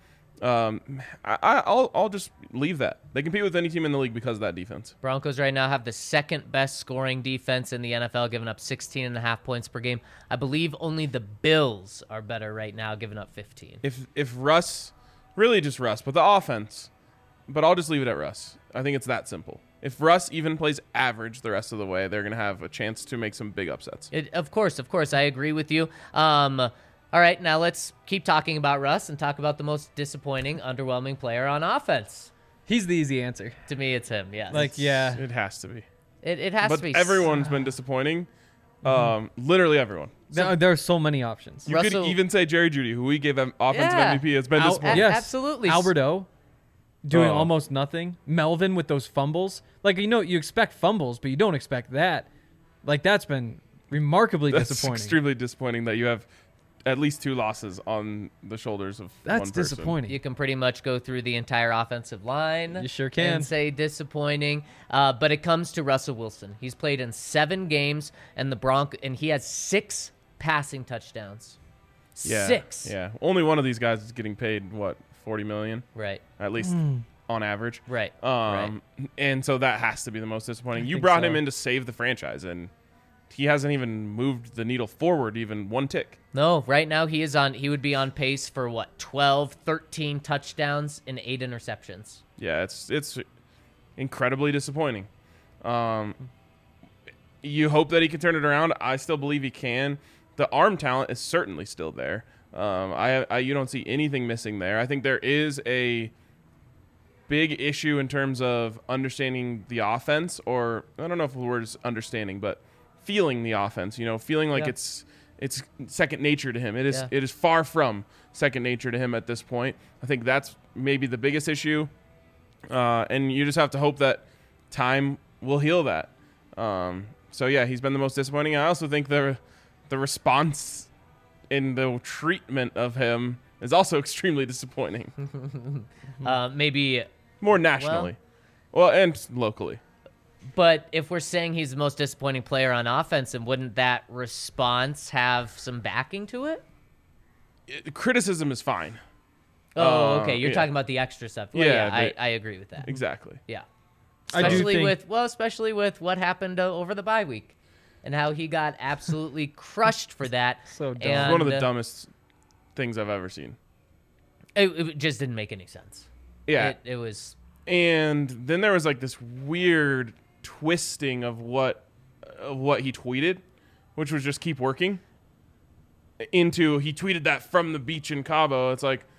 I'll just leave that. They compete with any team in the league because of that defense. Broncos right now have the second best scoring defense in the NFL, giving up 16.5 points per game. I believe only the Bills are better right now, giving up 15. If Russ, really just Russ, but the offense, but I'll just leave it at Russ. I think it's that simple. If Russ even plays average the rest of the way, they're going to have a chance to make some big upsets. Of course, I agree with you. All right, now let's keep talking about Russ and talk about the most disappointing, underwhelming player on offense. He's the easy answer. To me, it's him, yes. It has to be. It has to be. But everyone's been disappointing. Literally everyone. There are so many options. You could even say Jerry Jeudy, who we gave offensive MVP, has been disappointing. Yes. Absolutely. Alberto doing almost nothing. Melvin with those fumbles. You expect fumbles, but you don't expect that. That's been remarkably disappointing. It's extremely disappointing that you have at least 2 losses on the shoulders of one person. That's disappointing. You can pretty much go through the entire offensive line. You sure can. And say disappointing. But it comes to Russell Wilson. He's played in 7 games, and he has 6 passing touchdowns. Yeah, 6. Yeah. Only one of these guys is getting paid, what, $40 million? Right. At least on average. Right. And so that has to be the most disappointing. You brought him in to save the franchise, and he hasn't even moved the needle forward even 1 tick. No, right now he would be on pace for 12, 13 touchdowns and 8 interceptions. Yeah, it's incredibly disappointing. You hope that he can turn it around. I still believe he can. The arm talent is certainly still there. You don't see anything missing there. I think there is a big issue in terms of understanding the offense, or I don't know if the word is understanding, but feeling the offense, feeling like it's it's second nature to him. It is Yeah. it is far from second nature to him at this point. I think that's maybe the biggest issue, and you just have to hope that time will heal that. So yeah, he's been the most disappointing. I also think the response in the treatment of him is also extremely disappointing. Maybe, More nationally, well, and locally. but if we're saying he's the most disappointing player on offense, then wouldn't that response have some backing to it? Criticism is fine. Oh, okay. You're yeah. talking about the extra stuff. Well, Yeah, yeah, but- I agree with that. Exactly. Yeah. I do Especially think- especially with what happened over the bye week and how he got absolutely crushed for that. So dumb. And, One of the dumbest things I've ever seen. It just didn't make any sense. Yeah. It was. And then there was like this weird twisting of what he tweeted, which was just keep working. Into he tweeted that from the beach in Cabo. It's like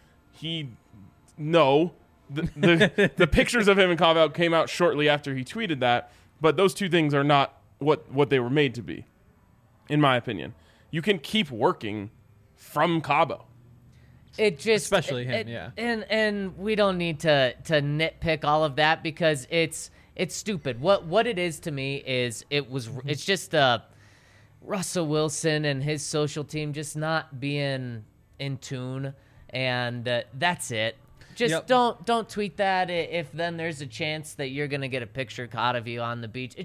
the pictures of him in Cabo came out shortly after he tweeted that, but those two things are not what they were made to be, in my opinion. You can keep working from Cabo. It just Especially him, yeah. And we don't need to nitpick all of that because it's stupid. What it is to me is it's just Russell Wilson and his social team just not being in tune, and that's it. Just Yep. don't tweet that if then there's a chance that you're gonna get a picture caught of you on the beach.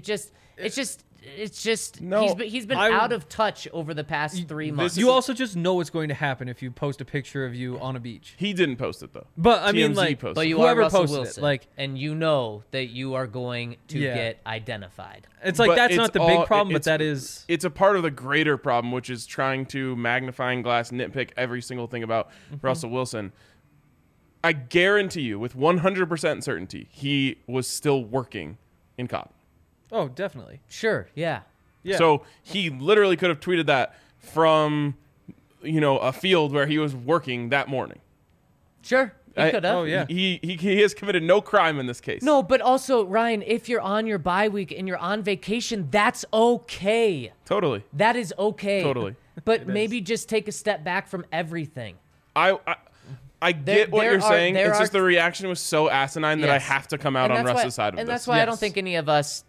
It's just No, he's been I- out of touch over the past 3 months. You also just know what's going to happen if you post a picture of you on a beach. He didn't post it though. But I mean, TMZ like, posted But you whoever are Russell posted it, Wilson, like- and you know that you are going to Yeah. get identified. it's like But that's it's not the all- big problem, but it's- that is. It's a part of the greater problem, which is trying to magnifying glass nitpick every single thing about Russell Wilson. I guarantee you, with 100% certainty, he was still working in Cobb. Oh, definitely. Sure, yeah. Yeah. So he literally could have tweeted that from, a field where he was working that morning. Sure, he I- could have. oh, yeah. He has committed no crime in this case. No, but also, Ryan, if you're on your bye week and you're on vacation, that's okay. Totally. That is okay. Totally. But maybe just take a step back from everything. I get what there you're are- saying. there It's are- just the reaction was so asinine that I Yes. have to come out And on that's why- Russ's side of and this. that's why I don't Yes. think any of us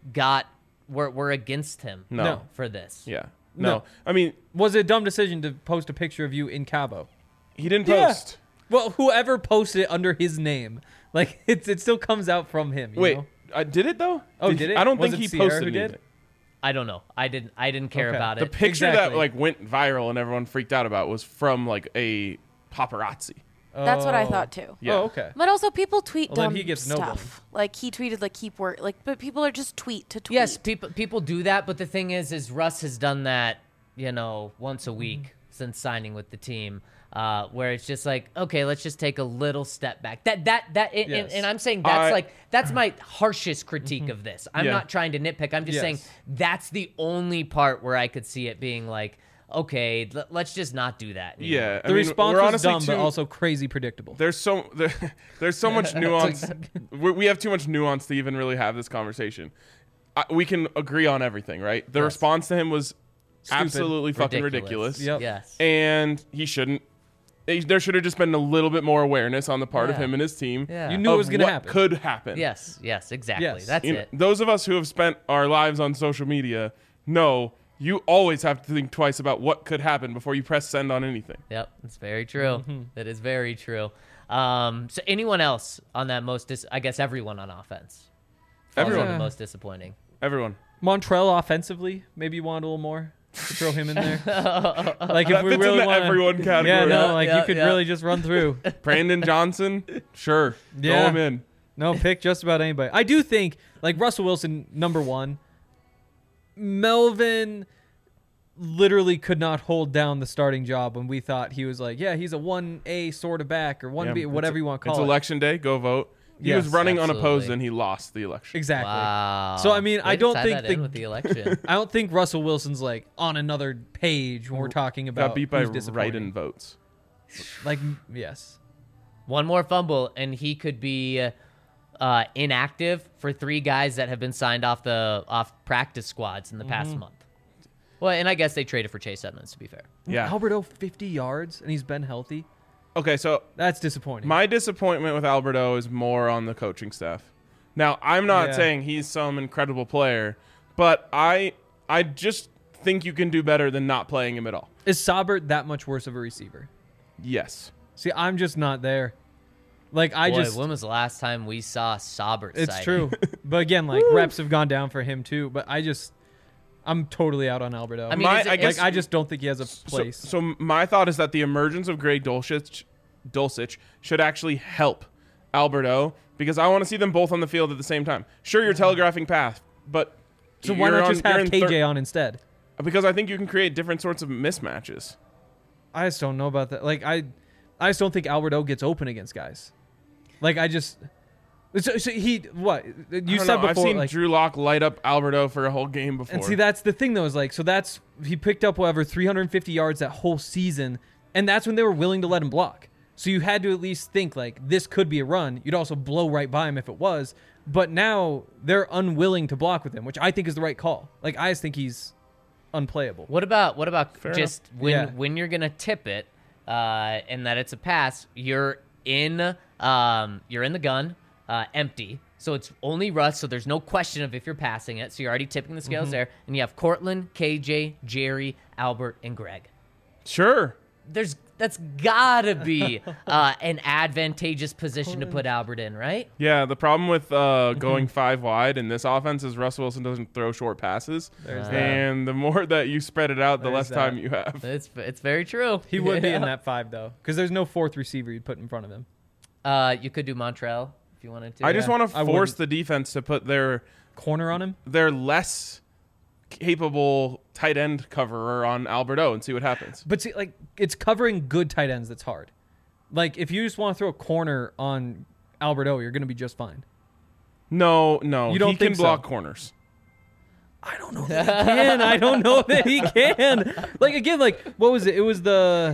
we're against him No. for this. Yeah. No. No. I mean, Was it a dumb decision to post a picture of you in Cabo? he didn't Yeah. post. Well, whoever posted it under his name, like it still comes out from him. You Wait, know? did it though? Oh, did it? I don't Was think it he Sierra posted who did? anything. I don't know. I didn't care Okay. about The it. picture Exactly. that went viral and everyone freaked out about was from a paparazzi. That's what I Oh. thought too. Yeah. Oh, okay. But also, people tweet Well, then dumb he gets no stuff. Like he tweeted, keep work. But people are just tweet to tweet. Yes, people do that, but the thing is Russ has done that, once a week since signing with the team, where it's just like, okay, let's just take a little step back. Yes. And I'm saying I- that's my harshest critique of this. I'm Yeah. not trying to nitpick. I'm just Yes. saying that's the only part where I could see it being like, okay, let's just not do that anymore. Yeah. The response we're was honestly dumb, but too- also crazy predictable. there's so much nuance. We have too much nuance to even really have this conversation. We can agree on everything, right? The Yes. response to him was Stupid. absolutely fucking ridiculous. Yep. Yes. And he shouldn't. There should have just been a little bit more awareness on the part of Yeah. him and his team. Yeah. You knew it of was going to what happen. could happen. Yes, exactly. Yes. That's it. Those of us who have spent our lives on social media know you always have to think twice about what could happen before you press send on anything. Yep, that's very true. Mm-hmm. That is very true. So anyone else on that I guess everyone on offense. falls Everyone. on the most disappointing. Everyone. Montreal offensively, maybe you want a little more to throw him in there. Like if That we fits really in the want everyone category. Yeah, no, Yeah, you could yeah. really just run through. Brandon Johnson, sure. Throw Yeah. him in. No, pick just about anybody. I do think Russell Wilson, number one. Melvin literally could not hold down the starting job when we thought he was he's a 1A sort of back or 1B, Yeah, whatever you want to call It's it. election day. Go vote. He Yes, was running unopposed absolutely. and he lost the election. Exactly. Wow. So, I mean, Way I to don't tie think that the- in with the election. I don't think Russell Wilson's on another page when we're talking about Got beat by who's disappointing. write-in votes. Yes. One more fumble, and he could be inactive for 3 guys that have been signed off practice squads in the past month. Well, and I guess they traded for Chase Edmonds, to be fair. Yeah. Alberto 50 yards and he's been healthy. Okay, so That's disappointing. my disappointment with Alberto is more on the coaching staff. Now, I'm not Yeah. saying he's some incredible player, but I just think you can do better than not playing him at all. Is Saubert that much worse of a receiver? Yes. See, I'm just not there. Like When was the last time we saw Saubert? It's sighting? true. But again, like reps have gone down for him too. But I'm totally out on Alberto. I mean, I just don't think he has a place. So my thought is that the emergence of Greg Dulcich should actually help Alberto because I want to see them both on the field at the same time. Sure, you're telegraphing path, but So why not just have KJ on instead? Because I think you can create different sorts of mismatches. I just don't know about that. Like I just don't think Alberto gets open against guys. Like so he what you said before. I've seen like, Drew Lock light up Alberto for a whole game before. and see, that's the thing though. Is like he picked up 350 yards that whole season, and that's when they were willing to let him block. So you had to at least think like this could be a run. You'd also blow right by him if it was. But now they're unwilling to block with him, which I think is the right call. Like I just think he's unplayable. What about Fair just enough. when you're gonna tip it, and that it's a pass? You're in the gun, empty. So it's only Russ. So there's no question of if you're passing it. So you're already tipping the scales there, and you have Cortland, KJ, Jerry, Albert, and Greg. Sure. That's gotta be an advantageous position to put Albert in, right? Yeah, the problem with going 5 wide in this offense is Russell Wilson doesn't throw short passes. There's that. And the more that you spread it out, the There's less that. time you have. It's very true. He would be in Yeah. that 5 though, because there's no fourth receiver you'd put in front of him. You could do Montreal if you wanted to. I just Yeah, want to I force wouldn't. the defense to put their Corner on him. less capable tight end coverer on Alberto and see what happens. But see, like it's covering good tight ends that's hard. Like if you just want to throw a corner on Alberto, you're going to be just fine. No, You don't he can think so? block corners. I don't know that he can. I don't know that he can. Like again, like what was it? It was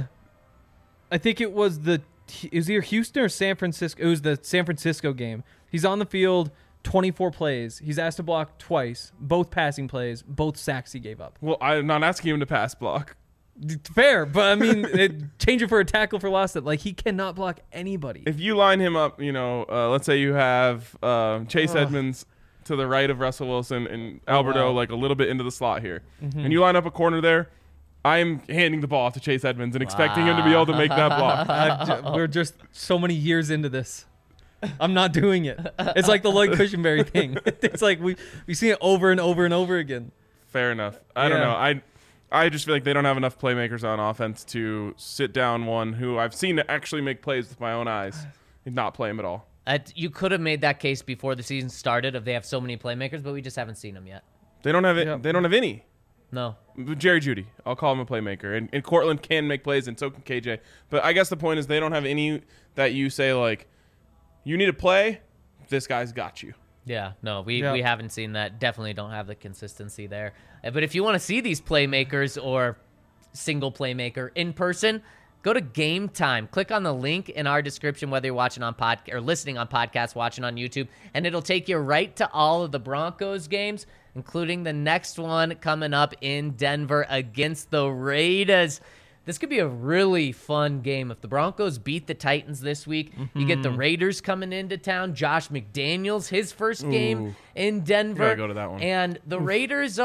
I think it was either Houston or San Francisco. It was the San Francisco game. He's on the field, 24 plays. He's asked to block twice, both passing plays, both sacks he gave up. Well, I'm not asking him to pass block. Fair, but I mean, change it for a tackle for loss. That like he cannot block anybody. If you line him up, let's say you have Chase Edmonds to the right of Russell Wilson and Alberto like a little bit into the slot here, and you line up a corner there, I'm handing the ball off to Chase Edmonds and expecting him to be able to make that block. We're just so many years into this. I'm not doing it. It's like the Lloyd Cushenberry thing. It's like we see it over and over and over again. Fair enough. I don't know. I just feel like they don't have enough playmakers on offense to sit down one who I've seen actually make plays with my own eyes and not play him at all. You could have made that case before the season started if they have so many playmakers, but we just haven't seen them yet. They don't have it. Yeah. They don't have any. No. Jerry Jeudy, I'll call him a playmaker, and Cortland can make plays, and so can KJ. But I guess the point is they don't have any that you say like, you need to play. This guy's got you. Yeah, no, we Yeah. haven't seen that. Definitely don't have the consistency there. But if you want to see these playmakers or single playmaker in person, go to Game Time. Click on the link in our description, whether you're watching on podcast or listening on podcast, watching on YouTube, and it'll take you right to all of the Broncos games, including the next one coming up in Denver against the Raiders. This could be a really fun game. If the Broncos beat the Titans this week, you get the Raiders coming into town. Josh McDaniels, his first game in Denver. Gotta go to that one. And the Raiders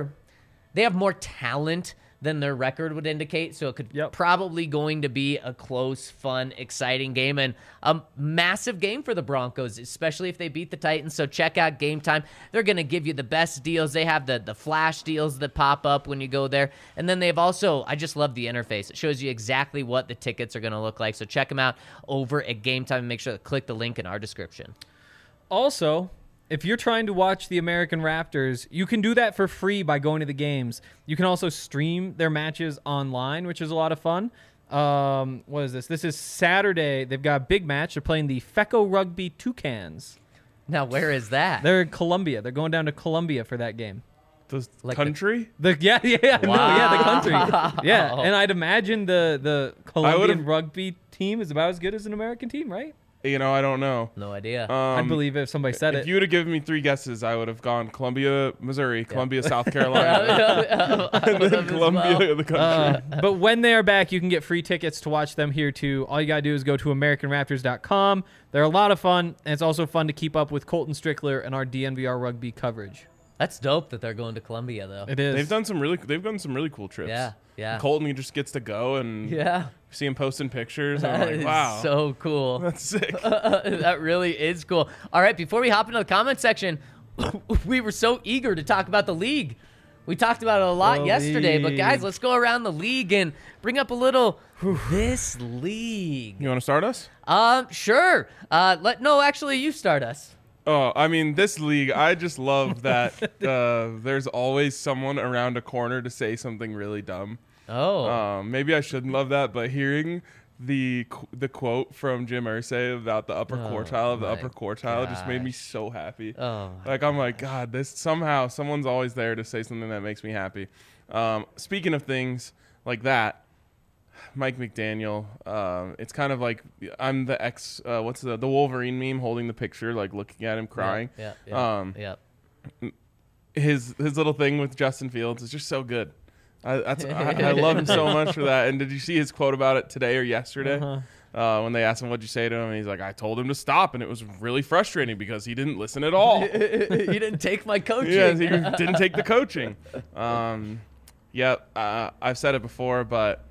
they have more talent than their record would indicate, so it could probably going to be a close, fun, exciting game and a massive game for the Broncos, especially if they beat the Titans. So check out Game Time. They're going to give you the best deals. They have the flash deals that pop up when you go there. And then they've also, I just love the interface. It shows you exactly what the tickets are going to look like. So check them out over at Game Time and make sure to click the link in our description. Also, if you're trying to watch the American Raptors, you can do that for free by going to the games. You can also stream their matches online, which is a lot of fun. What is this? This is Saturday. They've got a big match. They're playing the FECO Rugby Toucans. Now, where is that? They're in Colombia. They're going down to Colombia for that game. The Like country? The country. Yeah, Wow. and I'd imagine the Colombian would've- rugby team is about as good as an American team, right? I don't know. No idea. I'd believe it if somebody said If it. you would have given me 3 guesses, I would have gone Columbia, Missouri, Columbia, South Carolina, and then Columbia, the country. But when they are back, you can get free tickets to watch them here too. All you got to do is go to AmericanRaptors.com. They're a lot of fun, and it's also fun to keep up with Colton Strickler and our DNVR rugby coverage. That's dope that they're going to Columbia, though. It is. They've done some really cool trips. Yeah. Colton, he just gets to go and Yeah. see him posting pictures. And That I'm is like, wow, so cool. that's sick. That really is cool. All right, before we hop into the comment section, we were so eager to talk about the league. We talked about it a lot The yesterday, but guys, league. let's go around the league and bring up a little this league. You want to start us? Sure. Actually, you start us. Oh, I mean, this league, I just love that there's always someone around a corner to say something really dumb. Oh. Maybe I shouldn't love that, but hearing the quote from Jim Irsay about the upper quartile of the my upper quartile just made me gosh. so happy. Oh. Like, I'm like, God, this somehow someone's always there to say something that makes me happy. Speaking of things like that, Mike McDaniel, it's kind of like I'm the what's the Wolverine meme holding the picture, like looking at him crying. Yeah. His little thing with Justin Fields is just so good. I love him so much for that. And did you see his quote about it today or yesterday? When they asked him what'd you say to him, and he's like, I told him to stop, and it was really frustrating because he didn't listen at all. You didn't take my coaching. Yeah, he didn't take the coaching. I've said it before, but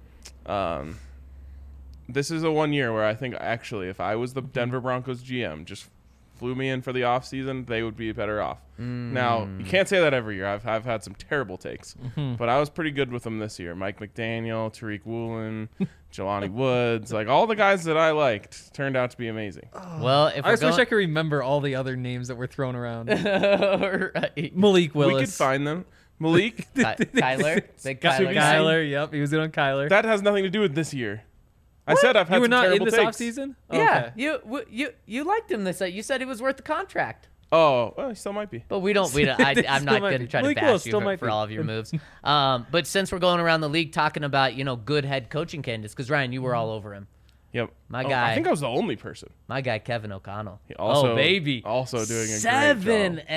this is a 1 year where I think actually if I was the Denver Broncos GM, just flew me in for the offseason, they would be better off. Now, you can't say that every year. I've had some terrible takes, but I was pretty good with them this year. Mike McDaniel, Tariq Woolen, Jelani Woods, like all the guys that I liked turned out to be amazing. Well, if I just wish I could remember all the other names that were thrown around. Malik Willis. We could find them. Malik, Kyler, big Kyler. Kyler. Yep, he was doing Kyler. that has nothing to do with this year. I said I've had You were some not in terrible this takes. offseason? Yeah, Okay. you liked him this. You said he was worth the contract. Oh, well, he still might be. But we don't. I'm Still not might going to be. try to Malik bash Willis you still for, might for be. all of your moves. But since we're going around the league talking about good head coaching candidates, because Ryan, you were all over him. Yep. My Oh, guy. I think I was the only person. My guy Kevin O'Connell. Also, oh baby, also doing a great job.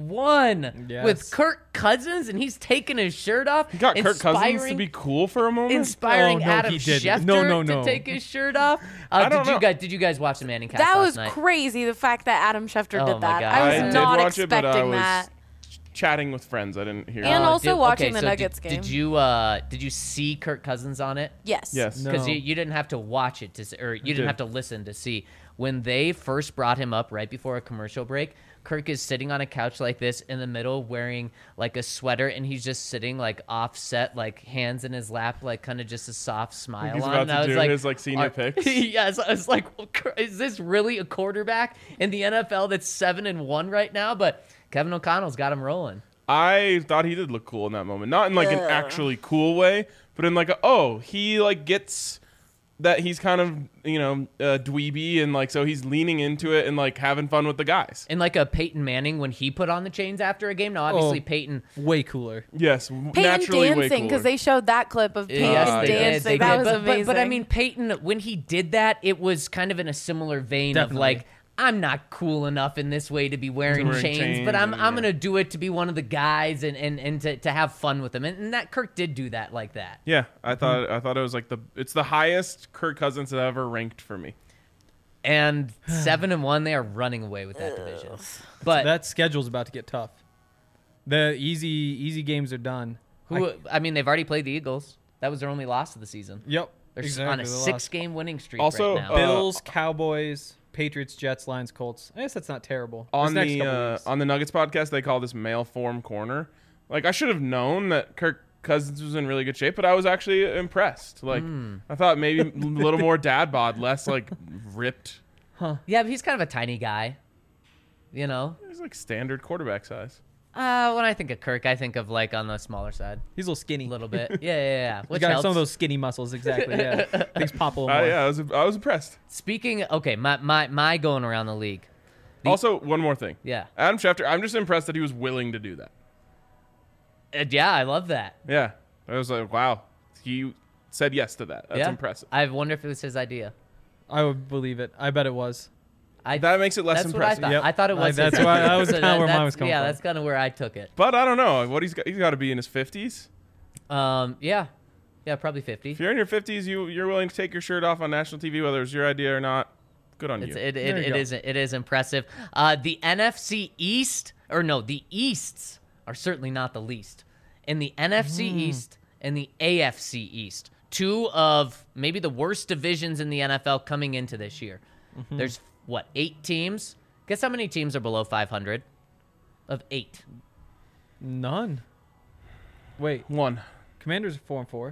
7-1 Yes. with Kirk Cousins, and he's taking his shirt off. He got Kirk Cousins to inspiring- be cool for a moment. Inspiring Oh, no, Adam he didn't. Schefter No. to take his shirt off. I don't know. Did you guys watch the Manning cast That last was night? crazy, the fact that Adam Schefter Oh did my that. God. I I was did not watch it, but I expecting was that. chatting with friends. I didn't hear And it. also watching the so Nuggets game. Did you see Kirk Cousins on it? Yes. Yes. No. Because you didn't have to watch it or you didn't did. have to listen to see. When they first brought him up right before a commercial break, Kirk is sitting on a couch like this in the middle wearing like a sweater, and he's just sitting like offset, like hands in his lap, like kind of just a soft smile He's on. about And to I was do like, his like senior picks. Yes, I was like, well, is this really a quarterback in the NFL that's 7-1 right now? But Kevin O'Connell's got him rolling. I thought he did look cool in that moment. Not in like an actually cool way, but in like he like gets that he's kind of, dweeby, and like so he's leaning into it and like having fun with the guys. And like a Peyton Manning when he put on the chains after a game. Now, obviously, Peyton. Way cooler. Yes, Peyton naturally way dancing, because cooler. they showed that clip of Peyton Yes, they did. dancing. They That did. was amazing. But I mean, Peyton, when he did that, it was kind of in a similar vein Definitely. of like, I'm not cool enough in this way to be wearing chains, but I'm and, going to do it to be one of the guys and to have fun with them. And that Kirk did do that like that. Yeah, I thought it was like it's the highest Kirk Cousins have ever ranked for me. And 7-1, they are running away with that division. But That schedule's about to get tough. The easy games are done. they've already played the Eagles. That was their only loss of the season. Yep. They're exactly, on a they lost. 6-game winning streak Also, right now. Bills, Cowboys, Patriots, Jets, Lions, Colts. I guess that's not terrible. On This next the couple weeks. on the Nuggets podcast, they call this male form corner. Like, I should have known that Kirk Cousins was in really good shape, but I was actually impressed. Like, I thought maybe a little more dad bod, less like ripped. Yeah, but he's kind of a tiny guy. He's He's like standard quarterback size. when I think of Kirk, I think of like on the smaller side. He's a little skinny. A little bit. Yeah. He's Which got helps. some of those skinny muscles, exactly. Yeah, things pop a little more. Yeah, I was impressed. Speaking, okay, my going around the league. Also, one more thing. Yeah. Adam Schefter, I'm just impressed that he was willing to do that. Yeah, I love that. Yeah. I was like, wow. He said yes to that. That's yeah. impressive. I wonder if it was his idea. I would believe it. I bet it was. That makes it less That's impressive. what I thought. Yep. I thought it was. That's his why age. that was So kinda where mine that's- was coming Yeah, from. that's kind of where I took it. But I don't know what he's got to be in his 50s. Yeah, probably 50. If you're in your 50s, you're willing to take your shirt off on national TV, whether it's your idea or not. Good on you. It you is impressive. The NFC East, or no, the Easts are certainly not the least. In the NFC East and the AFC East, two of maybe the worst divisions in the NFL coming into this year. There's, 8 teams? Guess how many teams are below 500? Of 8. None. Wait, One. Commanders are 4-4.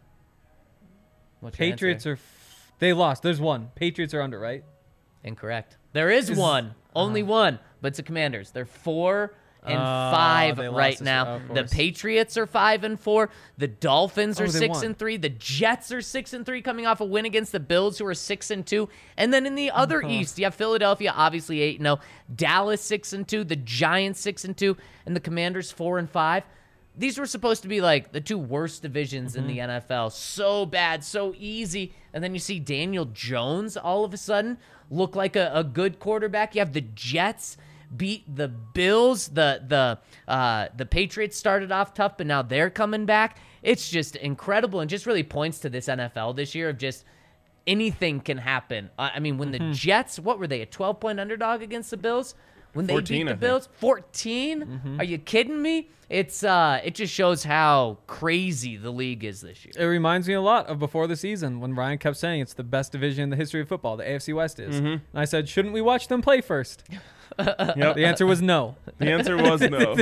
What's your Patriots answer? are. They lost. There's one. Patriots are under, right? Incorrect. There is one. Only one. But it's the Commanders. They're 4 and 5 they lost right this- now. of The course. Patriots are 5 and 4. The Dolphins are Oh, they 6 won. and 3. The Jets are 6 and 3, coming off a win against the Bills, who are 6 and 2. And then in the other East, you have Philadelphia, obviously 8 and 0. Dallas 6 and 2. The Giants 6 and 2, and the Commanders 4 and 5. These were supposed to be like the two worst divisions in the NFL. So bad, so easy. And then you see Daniel Jones all of a sudden look like a good quarterback. You have the Jets beat the Bills. The Patriots started off tough, but now they're coming back. It's just incredible and just really points to this NFL this year of just anything can happen. I mean, when the Jets, what were they, a 12-point underdog against the Bills? When they 14, beat I the think. Bills? 14? Are you kidding me? It just shows how crazy the league is this year. It reminds me a lot of before the season when Ryan kept saying it's the best division in the history of football. The AFC West is. And I said, shouldn't we watch them play first? Yep. The answer was no. The answer was no.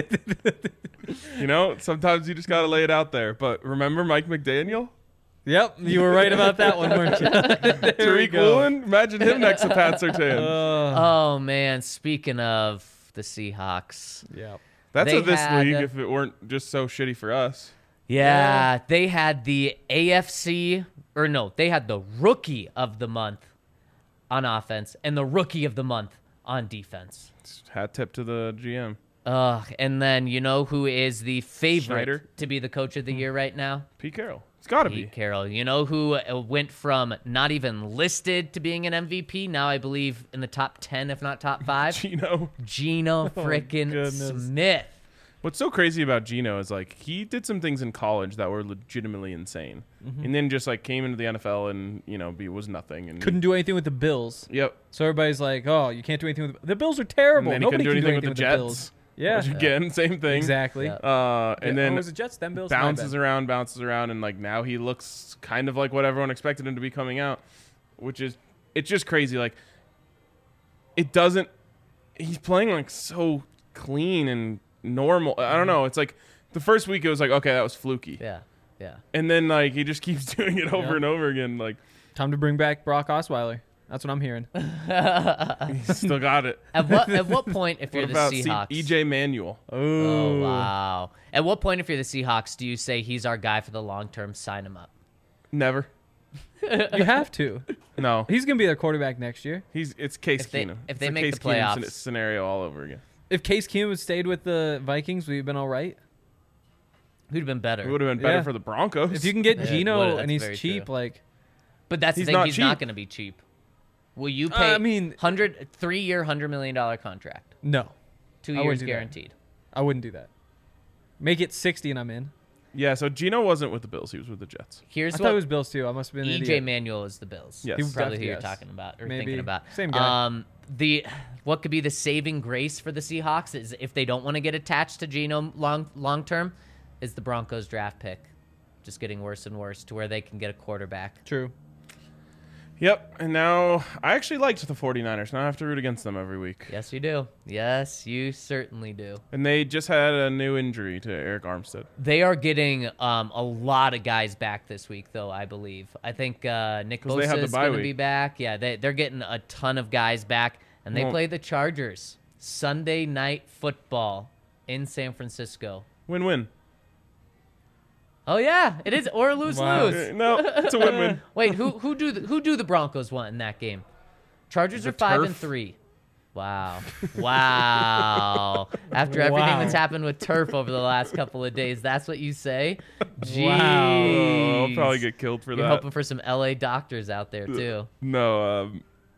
Sometimes you just got to lay it out there. But remember Mike McDaniel? Yep, you were right about that one, weren't you? There we Tariq go. Woolen? Imagine him next to Pat Surtain. Oh, man. Speaking of the Seahawks. Yeah. That's they of this had- league if it weren't just so shitty for us. Yeah, they had the AFC, or no, they had the rookie of the month on offense and the rookie of the month on defense. Hat tip to the GM. And then you know who is the favorite Schneider? to be the coach of the year right now? Pete Carroll. It's got to be. Pete Carroll. You know who went from not even listed to being an MVP, now I believe in the top 10, if not top 5? Gino. Geno frickin' goodness. Smith. What's so crazy about Gino is like he did some things in college that were legitimately insane, and then just like came into the NFL and was nothing and Couldn't do anything with the Bills. Yep. So everybody's like, oh, you can't do anything with the Bills are terrible. And then he Nobody couldn't do can anything with the Bills. Jets. Yeah. Which again, same thing. Exactly. Yeah. And then it was the Jets, then Bills. my bounces bad. around, and like now he looks kind of like what everyone expected him to be coming out, which is it's just crazy. Like he's playing like so clean and normal. I don't know. It's like the first week it was like, okay, that was fluky. Yeah. And then like he just keeps doing it over Yeah. and over again. Like Time to bring back Brock Osweiler. That's what I'm hearing. he's still got it. At what point, if you're What the about Seahawks? EJ Manuel? Oh, wow. At what point, if you're the Seahawks, do you say he's our guy for the long term, sign him up? Never. You have to. No. He's gonna be their quarterback next year. It's Case If they- Keenum. if It's they a make Case the Keenum playoffs. scenario all over again. If Case Keenum had stayed with the Vikings, we'd have been all right. Who'd have been better? It would have been better Yeah. for the Broncos. If you can get Yeah, Geno well, that's and he's very cheap, true. like But that's He's the thing. not He's not cheap. going to be cheap. Will you pay? I mean- 3-year, $100 million contract, no, 2 I years wouldn't do that. guaranteed. I wouldn't do that. Make it 60 and I'm in. Yeah, so Gino wasn't with the Bills. He was with the Jets. Here's I thought what it was Bills too. I must have been an EJ idiot. Manuel is the Bills. Yes. He- Probably who you're yes. talking about or Maybe. thinking about. Same guy. What could be the saving grace for the Seahawks is if they don't want to get attached to Geno long term, is the Broncos draft pick just getting worse and worse to where they can get a quarterback. True. Yep, and now I actually liked the 49ers. Now I have to root against them every week. Yes, you do. Yes, you certainly do. And they just had a new injury to Eric Armstead. They are getting a lot of guys back this week, though, I believe. I think Nick 'Cause they had Bosa the is bye going to week. be back. Yeah, they're getting a ton of guys back, and they Well- play the Chargers Sunday Night Football in San Francisco. Win-win. Oh, yeah, it is. Or lose. No, it's a win-win. Wait, who do the Broncos want in that game? Chargers The are 5 and turf. 3. Wow. Wow. After everything Wow. that's happened with turf over the last couple of days, that's what you say? Jeez. Oh, I'll probably get killed for You're that. hoping for some LA doctors out there too. No,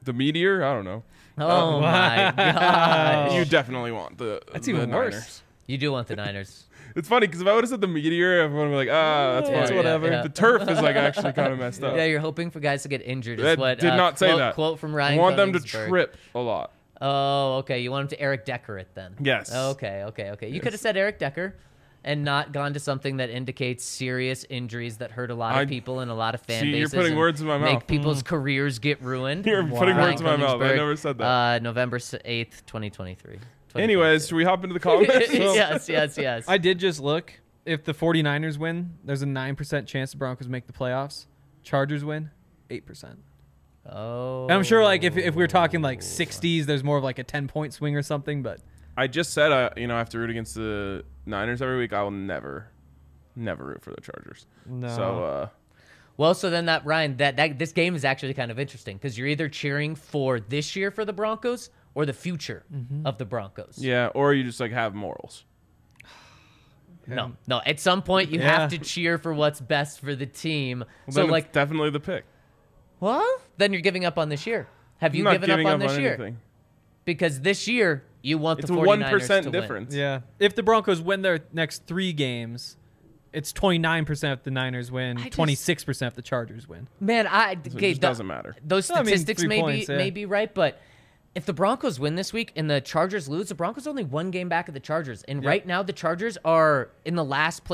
The Meteor? I don't know. Oh my god! You definitely want the That's the even worse. Niners. You do want the Niners. It's funny because if I would have said the Meteor, everyone would be like, that's Yeah, fine. whatever. yeah. The turf is like actually kind of messed up. Yeah, you're hoping for guys to get injured. Is That what did not say quote, that. Quote from I Ryan. want them to Koenigsberg. trip a lot. Oh, okay. You want him to Eric Decker it then? Yes. Okay. You could have said Eric Decker, and not gone to something that indicates serious injuries that hurt a lot of people and a lot of fan See, you're bases. putting and words in my Make mouth. people's careers get ruined. You're putting Ryan words in my mouth. I Koenigsberg, never said that. November 8th, 2023. Anyways, should we hop into the comments? yes. I did just look. If the 49ers win, there's a 9% chance the Broncos make the playoffs. Chargers win, 8%. Oh. And I'm sure, like, if we're talking like 60s, there's more of like a 10-point swing or something. But I just said, I have to root against the Niners every week. I will never root for the Chargers. No. So, Well, so then Ryan, that this game is actually kind of interesting because you're either cheering for this year for the Broncos or the future of the Broncos. yeah, or you just like have morals. No. At some point, you Yeah. have to cheer for what's best for the team. Well, So, then like, it's definitely the pick. well, then you're giving up on this year. Have you I'm not given giving up on this year? anything. Because this year, you want It's the a 49ers 1% to difference. win. yeah, if the Broncos win their next 3 games, it's 29% if the Niners win, I just- 26% if the Chargers win. Man, So it okay, just doesn't matter. those I mean, statistics 3 may points, yeah. be right, but if the Broncos win this week and the Chargers lose, the Broncos are only 1 game back of the Chargers, and right now the Chargers are in the last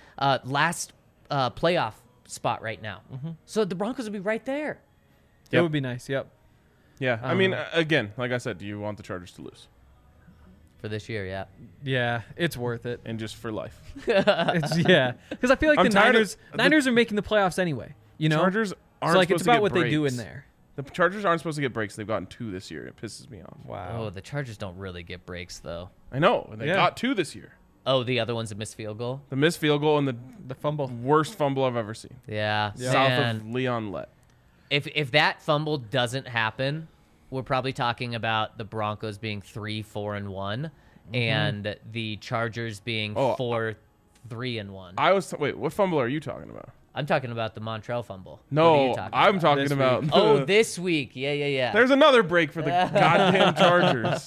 playoff spot right now. So the Broncos will be right there. It would be nice. Yep. Yeah, I mean, again, like I said, do you want the Chargers to lose? For this year, yeah. Yeah, it's worth it. And just for life. Yeah, because I feel like I'm the tired of- Niners are making the playoffs anyway. You know, Chargers aren't so like supposed it's to about get what they do in breaks. there. The Chargers aren't supposed to get breaks. They've gotten 2 this year. It pisses me off. Oh, the Chargers don't really get breaks, though. I know. They Yeah. got 2 this year. Oh, the other one's a missed field goal? The missed field goal and The fumble. the worst fumble I've ever seen. Yeah. South Man. of Leon Lett. If that fumble doesn't happen, we're probably talking about the Broncos being 3-4-1 and the Chargers being Oh, 4-3-1. Wait, what fumble are you talking about? I'm talking about the Montreal fumble. What are No, you talking I'm about? talking This about. week. Oh, this week. Yeah. There's another break for the goddamn Chargers.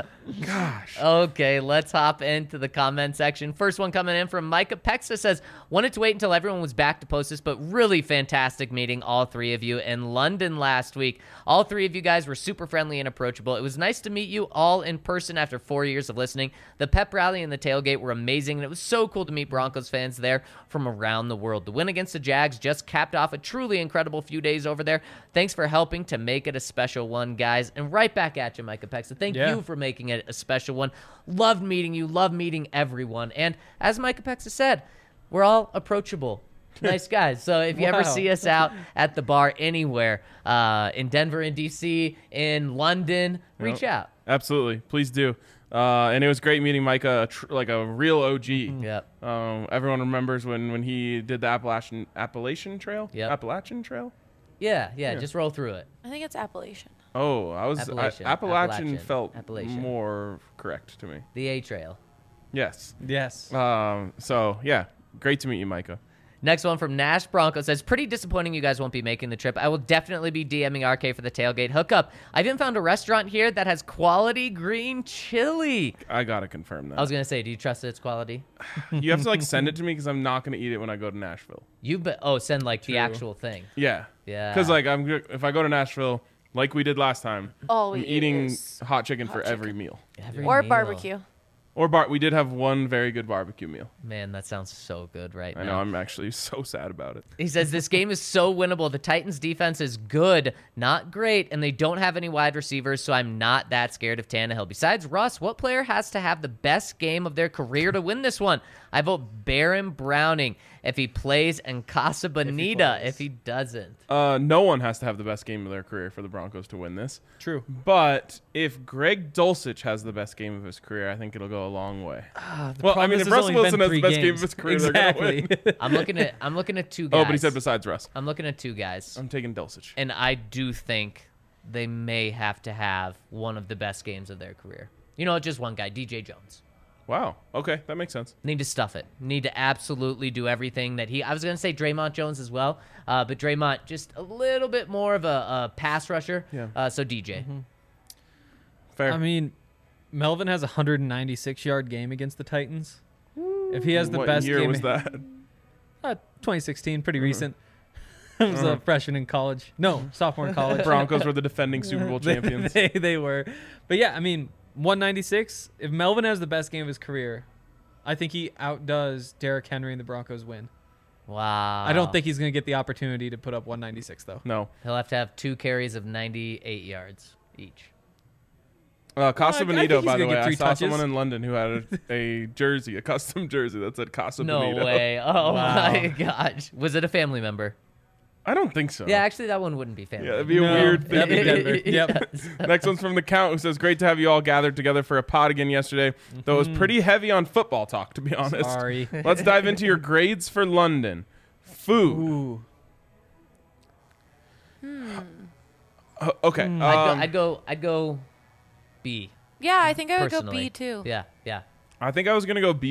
Gosh. Okay, let's hop into the comment section. First one coming in from Micah Pexa says, wanted to wait until everyone was back to post this, but really fantastic meeting all 3 of you in London last week. All 3 of you guys were super friendly and approachable. It was nice to meet you all in person after 4 years of listening. The pep rally and the tailgate were amazing, and it was so cool to meet Broncos fans there from around the world. The win against the Jags just capped off a truly incredible few days over there. Thanks for helping to make it a special one, guys. And right back at you, Micah Pexa. Thank you for making it a special one. Loved meeting you. Loved meeting everyone. And as Micah Pexa said, we're all approachable. Nice guys. So if you ever see us out at the bar anywhere, in Denver, in DC, in London, reach out. Absolutely. Please do. And it was great meeting Micah, like a real OG. Yep. Everyone remembers when he did the Appalachian Trail? Yep. Appalachian Trail? Yeah. Just roll through it. I think it's Appalachian. Oh, Appalachian. Appalachian felt Appalachian. more correct to me. The A Trail. Yes. Yes. So, yeah, great to meet you, Micah. Next one from Nash Bronco says, pretty disappointing you guys won't be making the trip. I will definitely be DMing RK for the tailgate hookup. I even found a restaurant here that has quality green chili. I got to confirm that. I was going to say, do you trust that it's quality? You have to, like, send it to me because I'm not going to eat it when I go to Nashville. Send like the actual thing. Yeah. Yeah. Because, like, if I go to Nashville, like we did last time, All I'm we eat eating is hot chicken for chicken. every meal. Every or meal. barbecue. Or we did have one very good barbecue meal. Man, that sounds so good right now. I know, I'm actually so sad about it. He says this game is so winnable. The Titans defense is good, not great, and they don't have any wide receivers, so I'm not that scared of Tannehill. Besides Russ, what player has to have the best game of their career to win this one? I vote Baron Browning if he plays and Casa Bonita if he doesn't. No one has to have the best game of their career for the Broncos to win this. True. But if Greg Dulcich has the best game of his career, I think it'll go a long way. Well, I problem mean, is if there's Russell only Wilson been has the 3 best game of games. his career, they're gonna Exactly. win. I'm looking at 2 guys. Oh, but he said besides Russ. I'm looking at 2 guys. I'm taking Dulcich. And I do think they may have to have one of the best games of their career. You know, just one guy, DJ Jones. Wow. Okay, that makes sense. Need to stuff it. Need to absolutely do everything that I was going to say Draymond Jones as well, but Draymond just a little bit more of a pass rusher. Yeah. So DJ. Fair. I mean, Melvin has a 196-yard game against the Titans. If he has the what best year game, was that? 2016, pretty recent. I was a freshman in college. No, sophomore in college. Broncos were the defending Super Bowl champions. They were. But yeah, I mean, 196. If Melvin has the best game of his career, I think he outdoes Derrick Henry and the Broncos win. Wow. I don't think he's going to get the opportunity to put up 196, though. No. He'll have to have 2 carries of 98 yards each. Casa I think Bonito, he's by the gonna way. get I 3 saw touches. someone in London who had a jersey, a custom jersey that said Casa No Bonito. way. Oh, Wow. my gosh. Was it a family member? I don't think so. Yeah, actually, that one wouldn't be family. Yeah, it'd be a No, weird that'd be thing. Denver. Yep. Next one's from The Count, who says, great to have you all gathered together for a pod again yesterday, though it was pretty heavy on football talk, to be honest. Sorry. Let's dive into your grades for London. Food. Ooh. Okay. I'd go B. Yeah, I think I would go Personally. B too. Yeah, yeah. I think I was going to go B+.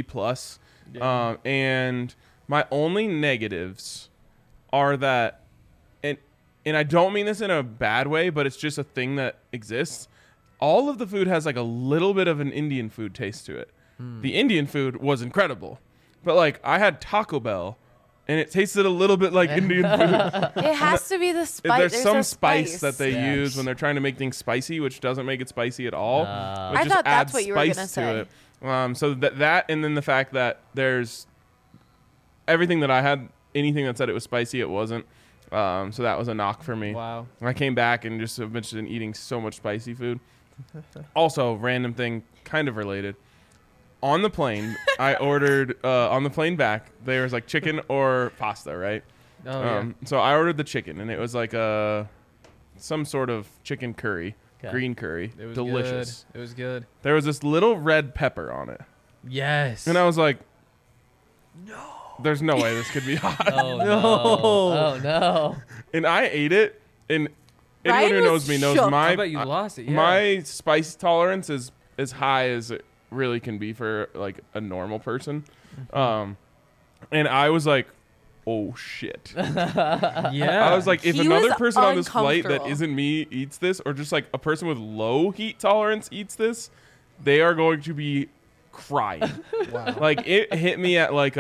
And my only negatives are that, and I don't mean this in a bad way, but it's just a thing that exists. All of the food has like a little bit of an Indian food taste to it. The Indian food was incredible. But like I had Taco Bell and it tasted a little bit like Indian food. It has to be the spice. There's some a spice that they Yes. use when they're trying to make things spicy, which doesn't make it spicy at all. It I just thought that's adds what you were spice gonna to say. it. So that and then the fact that there's everything that I had, anything that said it was spicy, it wasn't. So that was a knock for me. Wow. I came back and just have been eating so much spicy food. Also, random thing, kind of related. On the plane, I ordered on the plane back. There was like chicken or pasta, right? Oh, yeah. So I ordered the chicken, and it was like some sort of chicken curry, Okay. green curry, It was delicious. Good. It was good. There was this little red pepper on it, Yes. and I was like, "No, there's no way this could be hot." Oh, no. No. Oh, no. And I ate it, and anyone Ryan who was knows me knows shook. I bet you lost it. Yeah. my spice tolerance is as high as it really can be for like a normal person. And I was like, oh shit. Yeah. I was like, if He another was person on this flight that uncomfortable. isn't me eats this, or just like a person with low heat tolerance eats this, they are going to be crying. wow. Like it hit me at like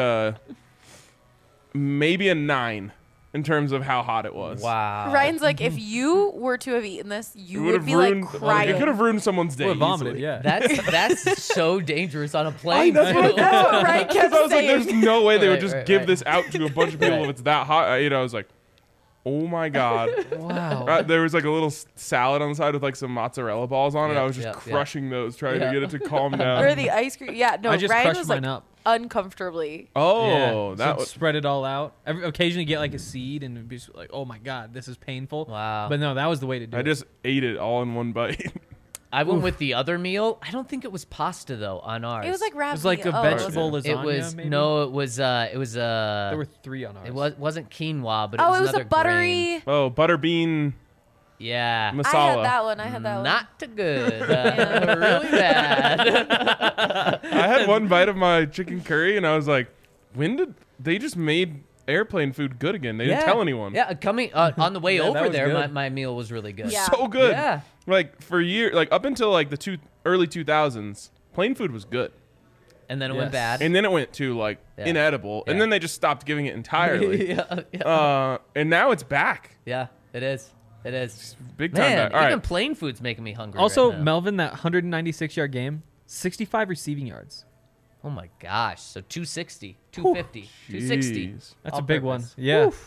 maybe a 9 in terms of how hot it was. Wow. Ryan's like, if you were to have eaten this, you It would have be ruined. like crying. It could have ruined someone's day. Would have vomited, easily. yeah. That's so dangerous on a plane. That's too. what That's what Ryan kept I was like, saying. there's no way they would Right, just right, give right. this out to a bunch of people if it's that hot. I was like, oh my God. wow. There was like a little salad on the side with like some mozzarella balls on it. Yeah, I was just yeah, yeah. crushing those, trying Yeah. to get it to calm down. or the ice cream. Yeah, no, I just Ryan crushed was mine like up. uncomfortably. Oh, Yeah. that So was. spread it all out. Occasionally get like a seed and it'd be just like, oh my God, this is painful. Wow. But no, that was the way to do I it. just ate it all in one bite. I went with the other meal. I don't think it was pasta though on ours. It was like It ravioli. was like a Oh, vegetable was lasagna. It was maybe? no. It was There were 3 on ours. It wasn't quinua, but Oh, it was it was another a buttery. grain. Oh, butterbean Yeah. masala. I had that one. I had that one. Not too good. Really bad. I had one bite of my chicken curry and I was like, when did they just made airplane food good again? They didn't tell anyone. Yeah, coming on the way Yeah, that over was there, good. my meal was really good. Yeah. So good. Yeah. Like for years, like up until like the early 2000s, plain food was good. And then it went Yes. bad. And then it went to like Yeah. inedible, and Yeah. then they just stopped giving it entirely. yeah. And now it's back, Yeah, it is. It is. big time Man, back. All even right, plain food's making me hungry. Also, right now. Melvin, that 196-yard game, 65 receiving yards. Oh my gosh. So 260, 250, 260. Jeez. That's All a big purpose. one. Yeah.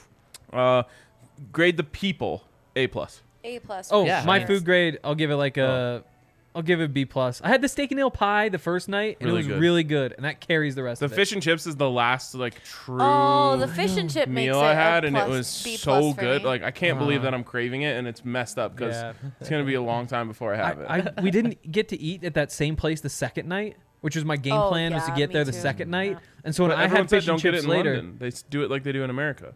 Grade the people A+. A+. Oh, Yeah. my Nice. food grade, I'll give it like I'll give it B+. I had the steak and ale pie the first night, and Really it was good. really good, and that carries the rest The of it. fish and chips is the last like true Oh, the fish and chip makes meal it I a had, and it plus, was B+ so for good. me. Like I can't believe that I'm craving it, and it's messed up because Yeah. it's gonna be a long time before I have it. we didn't get to eat at that same place the second night, which was my game Oh, plan was to yeah, get me there the too. second night. Yeah. And so when But I everyone had said fish and don't get it chips in later, London. They do it like they do in America.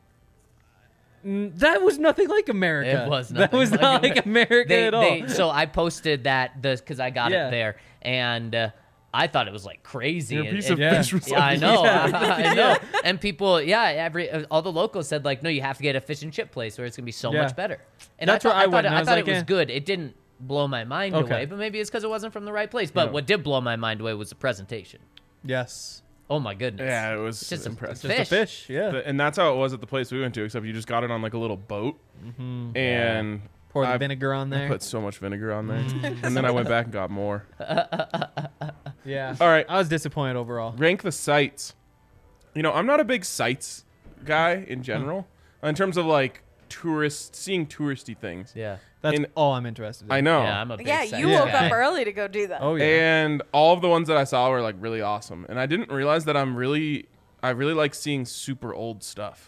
that was nothing like America. It was That nothing was like not like America at all. So I posted that because I got Yeah. it there, and I thought it was like crazy. Your and- piece and- of fish was Yeah, I like, know. I know. And people, all the locals said like, no, you have to get a fish and chip place where it's gonna be so Yeah. much better. And That's where I went, and I I was thought like, it was eh. good. It didn't blow my mind Okay. away, but maybe it's because it wasn't from the right place. But No. what did blow my mind away was the presentation. Yes. Oh my goodness. Yeah, it was It's just impressive. a Just a fish. Yeah. And that's how it was at the place we went to, except you just got it on like a little boat, and Pour the I vinegar on there. put so much vinegar on there, and then I went back and got more. Yeah. All right, I was disappointed overall. rank the sites. You know, I'm not a big sites guy in general, in terms of like seeing touristy things. Yeah. That's In- all I'm interested in. I know. Yeah, I'm a big Yeah, sight you Yeah. woke guy. up early to go do that. Oh yeah. And all of the ones that I saw were like really awesome, and I didn't realize that I really like seeing super old stuff.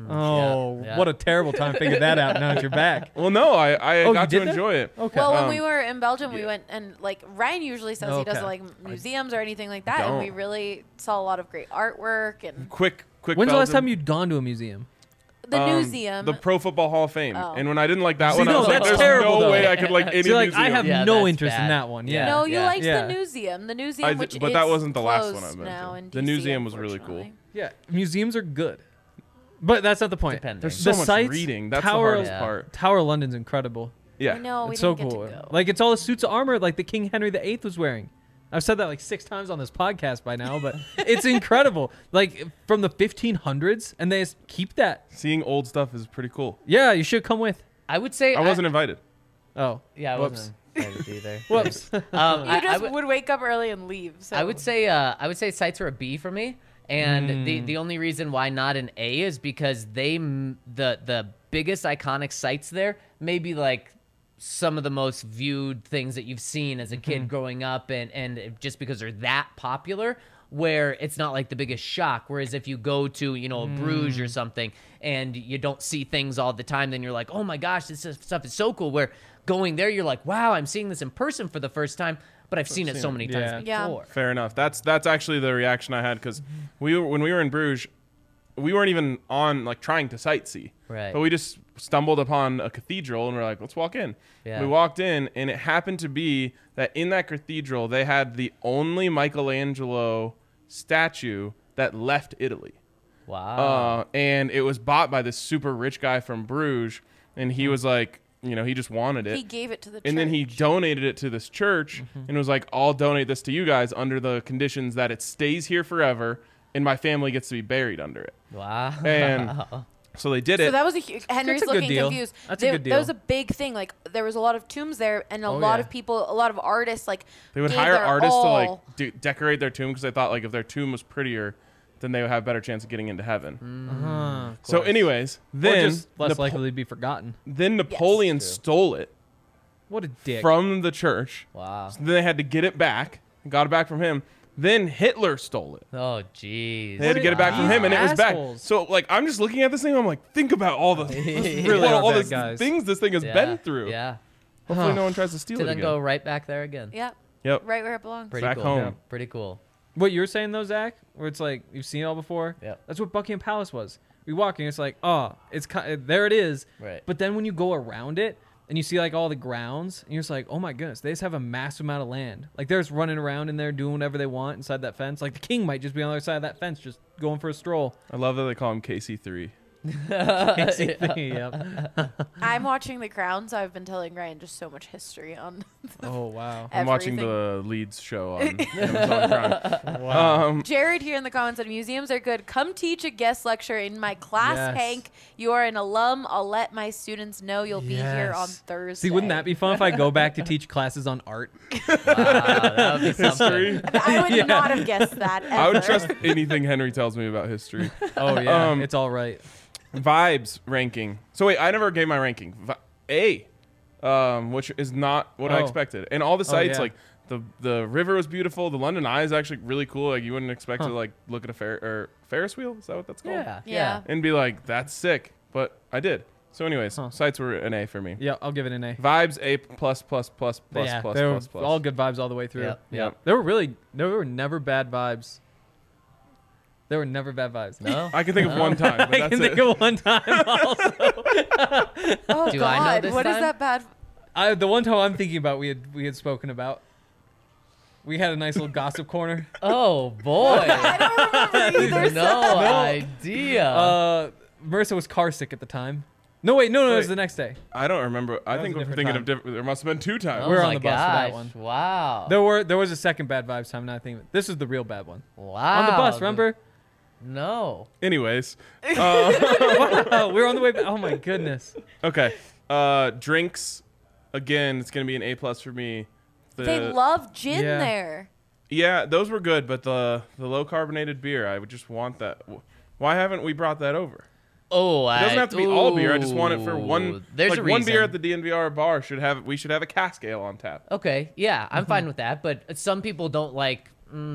Oh, Yeah. what a terrible time to figure that out. Now that you're back. Well, no, I Oh, you got to did that? enjoy it. Okay. Well, when Um, we were in Belgium, we yeah. went and like Ryan usually says he doesn't Okay. like museums or anything like that, and we Don't. really saw a lot of great artwork and Quick. When's the last Belgium. time you'd gone to a museum? the museum. The Pro Football Hall of Fame. Oh. And when I didn't like that See, one, I no, was like, that's there's terrible, no though. way I could like any See, like museum. I have Yeah, no that's interest in bad. that one. Yeah. no, you Yeah. liked Yeah. the museum. The I museum, did- which but that is wasn't the last one I closed mentioned. now in The DC, museum was really cool. unfortunately. Yeah. Museums are good, but that's not the point. Depending. There's The so much sites, reading. That's Tower, the hardest Yeah. part. Tower of London's incredible. Yeah. I know we It's so didn't cool. get to go. Like it's all the suits of armor like the King Henry VIII was wearing. I've said that like 6 times on this podcast by now, but it's incredible. Like from the 1500s, and they just keep that. Seeing old stuff is pretty cool. Yeah, you should come with. I would say I wasn't invited. Oh, Yeah, I Whoops. wasn't invited either. Whoops. You I just would- would wake up early and leave. So. I would say sites are a B for me, and the only reason why not an A is because the biggest iconic sites there may be like some of the most viewed things that you've seen as a kid growing up, and just because they're that popular, where it's not like the biggest shock. Whereas if you go to Bruges or something and you don't see things all the time, then you're like, oh my gosh, this stuff is so cool. Where going there, you're like, wow, I'm seeing this in person for the first time, but I've seen it so many times Yeah. before. Fair enough. That's actually the reaction I had because when we were in Bruges, we weren't even on like trying to sightsee. Right. But we just stumbled upon a cathedral and we're like, let's walk in. Yeah. We walked in and it happened to be that in that cathedral they had the only Michelangelo statue that left Italy. Wow. And it was bought by this super rich guy from Bruges, and he was like, he just wanted it. he gave it to the church. And then he donated it to this church and was like, I'll donate this to you guys under the conditions that it stays here forever and my family gets to be buried under it. Wow. And so they did So it. that was a huge. Henry's a good looking deal. confused. That's a good deal. That was a big thing. Like there was a lot of tombs there, and a Oh, lot yeah. of people, a lot of artists, like They would gave hire their artists to all. like decorate their tomb because they thought like if their tomb was prettier, then they would have a better chance of getting into heaven. So anyways, Or then just less likely to be forgotten. then Napoleon True. stole it What a dick. from the church. Wow. So then they had to get it back. Got it back from him. Then Hitler stole it. Oh, jeez. They had to get it back from him, and it was back. Assholes. So, like, I'm just looking at this thing. I'm like, think about all the really are all bad the guys. things this thing has Yeah. been through. Yeah. Hopefully, no one tries to steal To it then again. go right back there again. Yep, Yep. right where it belongs. Pretty Back cool. home. Yeah. Pretty cool. What you were saying though, Zach, where it's like you've seen it all before. Yep. That's what Buckingham Palace was. We walk in, it's like, oh, it's there it is. Right. But then when you go around it and you see like all the grounds, and you're just like, oh my goodness, they just have a massive amount of land. Like they're just running around in there doing whatever they want inside that fence. Like the king might just be on the other side of that fence, just going for a stroll. I love that they call him KC3. Yep. I'm watching The Crown, so I've been telling Ryan just so much history on. Oh wow. I'm watching Everything. the Leeds show on Amazon Prime. Jared here in the comments said museums are good. Come teach a guest lecture in my class, Yes. Hank. You are an alum. I'll let my students know you'll be here on Yes. Thursday. See, wouldn't that be fun if I go back to teach classes on art? Wow, that would be something. History. I would Yeah. not have guessed that. I would ever. trust anything Henry tells me about history. Oh yeah, Um, it's all right. Vibes ranking. So wait, I never gave my ranking. A, which is not what I Oh. expected. And all the sites, yeah. like the river was beautiful. The London Eye is actually really cool. Like you wouldn't expect to like look at a Ferris wheel. Is that what that's called? Yeah. Yeah. And be like, that's sick. But I did. So anyways, sites were an A for me. Yeah, I'll give it an A. Vibes A plus plus plus plus Yeah, plus they were plus plus. all good vibes all the way through. Yep. Yep. There were never bad vibes. There were never bad vibes. No? I can think of one time, but I that's can it. think of one time also. Oh Do I know God, this what is time? that bad? The one time I'm thinking about we had spoken about. We had a nice little gossip corner. Oh boy. I don't remember either. No idea. Marissa was car sick at the time. No, wait, no, it was the next day. I don't remember. I was think a we're different thinking time. of different. There must have been 2 times. Oh we're on my the bus for that gosh. one. Wow. There was a second bad vibes time, and I think this is the real bad one. Wow. On the bus, remember? No. Anyways, Oh, we were on the way back. Oh my goodness. okay. Drinks. Again, it's gonna be an A+ for me. They love gin Yeah. there. Yeah, those were good, but the low carbonated beer, I would just want that. Why haven't we brought that over? Oh, It doesn't have to be all beer. I just want it for one. There's like a one beer reason. at the DNVR bar we should have a cask ale on tap. Okay, yeah, I'm fine with that. But some people don't like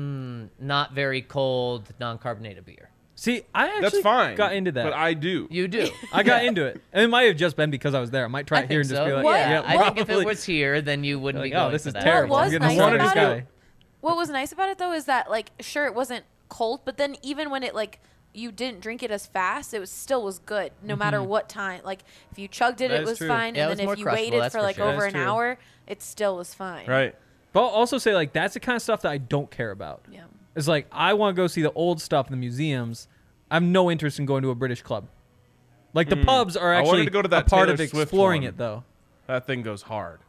not very cold, non-carbonated beer. See, I actually That's fine. got into that. but I do. You do. I got into it. And it might have just been because I was there. I might try I it here think and so. just be like, What? yeah, I think if probably. it was here, then you wouldn't Like, be going oh, this for is that. terrible. What I'm was getting nice the water this about it- guy. What was nice about it though is that like sure it wasn't cold, but then even when it like you didn't drink it as fast, it was still was good no matter what time. Like if you chugged it, That it is was true. fine, Yeah, it and was then more if you crushable, waited that's for for like sure. over That's an true. hour, it still was fine. Right. But I'll also say, like, that's the kind of stuff that I don't care about. Yeah. It's like, I want to go see the old stuff in the museums. I have no interest in going to a British club. Like, the pubs are I wanted actually to go to a that part Taylor of Swift exploring one. it, though. That thing goes hard.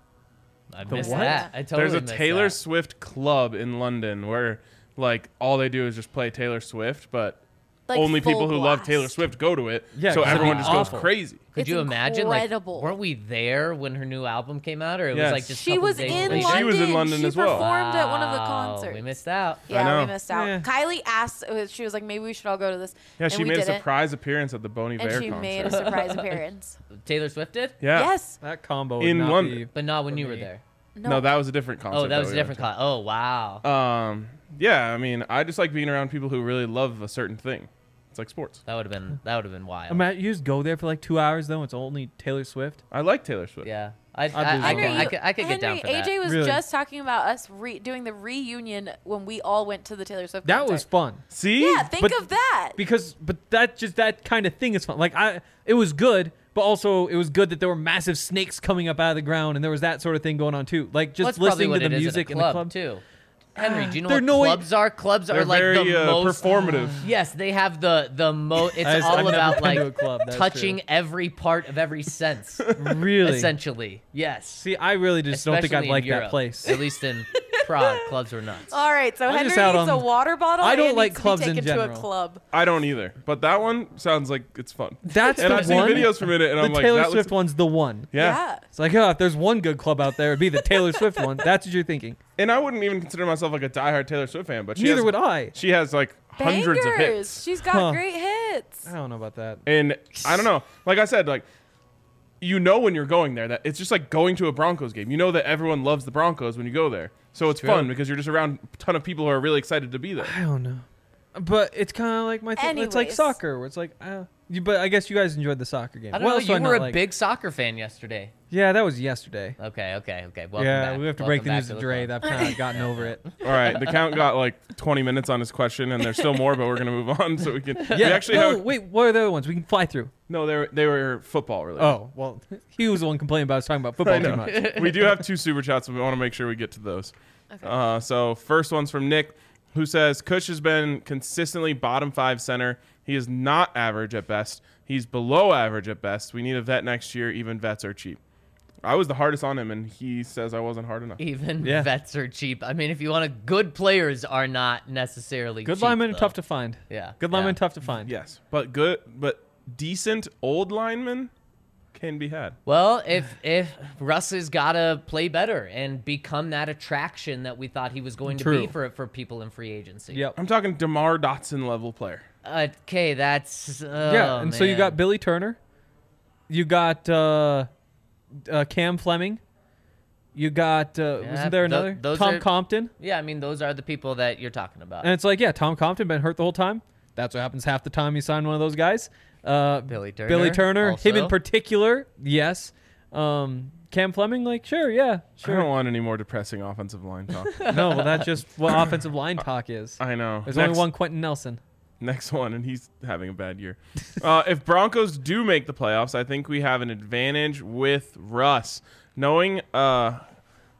I missed what? that. I totally There's a missed Taylor that. Swift club in London where like all they do is just play Taylor Swift, but Like only people full who love blast. Taylor Swift go to it. Yeah, so 'cause it'd everyone be just awful. goes crazy. Could It's you imagine? incredible. Like, weren't we there when her new album came out, or it Yes. was like just? a She couple was days in later? London. She was in London She as well. performed at one of the Wow, concerts. We missed out. Yeah, know. we missed out. Yeah. Kylie asked. She was like, maybe we should all go to this. Yeah, and she we made a didn't. surprise appearance at the Bon Iver And she concert. made a surprise appearance. Taylor Swift did, yeah. Yes. That combo would In not London. be... but not when For you were me. there. No, that was a different concert. Oh, that was a we different went Oh, wow. to. Yeah, I mean, I just like being around people who really love a certain thing. It's like sports. That would have been wild. Imagine you just go there for like 2 hours, though. It's only Taylor Swift. I like Taylor Swift. Yeah, I'd lose I could get down Henry, for that. AJ was Really. just talking about us doing the reunion when we all went to the Taylor Swift That concert. was fun. See? Yeah, think But- of that. But that kind of thing is fun. Like, it was good, but also it was good that there were massive snakes coming up out of the ground, and there was that sort of thing going on too. Like just That's probably listening what to the it is at a music in the club. too. Henry, do you know They're what no way- clubs are? Clubs They're are like very the most performative. Yes, they have the most. It's I've all never about been like to a club, that's touching true. every part of every sense. Really? Essentially, yes. See, I really just don't think Especially I'd like in that Europe. place. At least in Prague, clubs are nuts. All right, so I'm Henry just out needs a on- water bottle. I don't and like needs to be clubs in taken to a general. club. I don't either. But that one sounds like it's fun. That's And the I've seen one. videos from it, and The I'm like, Taylor that Swift looks. one's the one. Yeah. It's like, oh, if there's one good club out there, it'd be the Taylor Swift one. That's what you're thinking. And I wouldn't even consider myself like a diehard Taylor Swift fan, but she Neither has, would I. She has like hundreds of Bangers. hits. She's got Huh. great hits. I don't know about that. And I don't know. Like I said, like you know when you're going there that it's just like going to a Broncos game. You know that everyone loves the Broncos when you go there. So it's True. fun because you're just around a ton of people who are really excited to be there. I don't know. But it's kind of like my thing. It's like Anyways. soccer, where it's like, but I guess you guys enjoyed the soccer game. I don't What know. else do You I were not a like? big soccer fan yesterday. Yeah, that was yesterday. Okay. Welcome Yeah, back. we have to Welcome break the back news to to the Dre. club. I've kind of gotten over it. All right, the count got like 20 minutes on his question, and there's still more, but we're gonna move on so we can. We Yeah. actually No, have wait. What are the other ones? We can fly through. no. They were football related. Oh well, he was the one complaining about us talking about I football know. too much. We do have 2 super chats, and we want to make sure we get to those. Okay. So first one's from Nick, who says Kush has been consistently bottom 5 center. He is not average at best. He's below average at best. We need a vet next year. Even vets are cheap. I was the hardest on him, and he says I wasn't hard enough. Even Yeah. vets are cheap. I mean, if you want to, good players are not necessarily Good cheap, linemen though. tough to find. Yeah. Good linemen tough to find. Yes, but decent old linemen can be had. Well, if Russ has got to play better and become that attraction that we thought he was going to be True. for people in free agency. Yep. I'm talking DeMar Dotson level player. Okay, that's Yeah, and so you got Billy Turner, you got Cam Fleming, you got wasn't there another those Tom are- Compton? Yeah, I mean those are the people that you're talking about. And it's like, yeah, Tom Compton been hurt the whole time. That's what happens half the time you sign one of those guys. Billy Billy Turner, also. him in particular, yes. Cam Fleming, like, sure, yeah, I don't sure. want any more depressing offensive line talk. No, well, that's just what offensive line talk is. I know. There's only one Quentin Nelson. Next one, and he's having a bad year. If Broncos do make the playoffs, I think we have an advantage with Russ. Knowing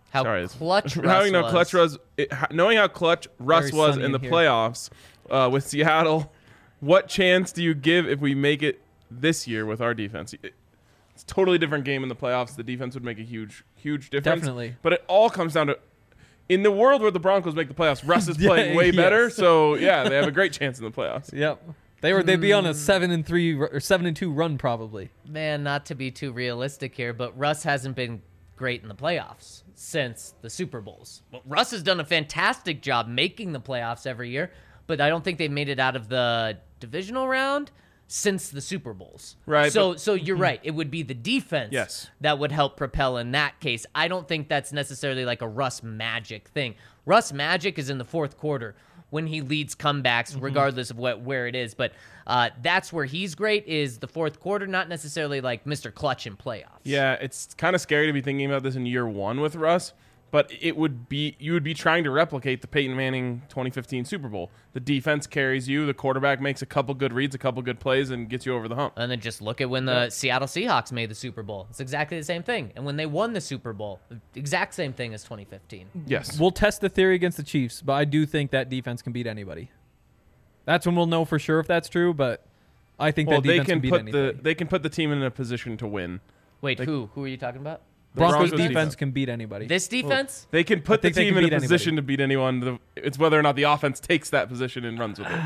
How Sorry, clutch Russ knowing how was. clutch knowing how clutch Russ Very was sunny in the in here. playoffs with Seattle. What chance do you give if we make it this year with our defense? It's a totally different game in the playoffs. The defense would make a huge difference. Definitely. But it all comes down to, in the world where the Broncos make the playoffs, Russ is Yeah, playing way yes. better. So yeah, they have a great chance in the playoffs. Yep. They'd be on a 7-3 or 7-2 run probably. Man, not to be too realistic here, but Russ hasn't been great in the playoffs since the Super Bowls. Well, Russ has done a fantastic job making the playoffs every year, but I don't think they've made it out of the divisional round since the Super Bowls. Right, So you're right. It would be the defense Yes. that would help propel in that case. I don't think that's necessarily like a Russ magic thing. Russ magic is in the fourth quarter when he leads comebacks, regardless of where it is. But that's where he's great, is the fourth quarter, not necessarily like Mr. Clutch in playoffs. Yeah, it's kind of scary to be thinking about this in year one with Russ, but you would be trying to replicate the Peyton Manning 2015 Super Bowl. The defense carries you, the quarterback makes a couple good reads, a couple good plays, and gets you over the hump. And then just look at when the Seattle Seahawks made the Super Bowl. It's exactly the same thing. And when they won the Super Bowl, exact same thing as 2015. Yes. We'll test the theory against the Chiefs, but I do think that defense can beat anybody. That's when we'll know for sure if that's true, but I think Well, that they defense can can beat put anybody. they can put the team in a position to win. Wait, who are you talking about? The Broncos Broncos defense can beat anybody. This defense? They can put the think they team can in a beat position to beat anyone. It's whether or not the offense takes that position and runs with it.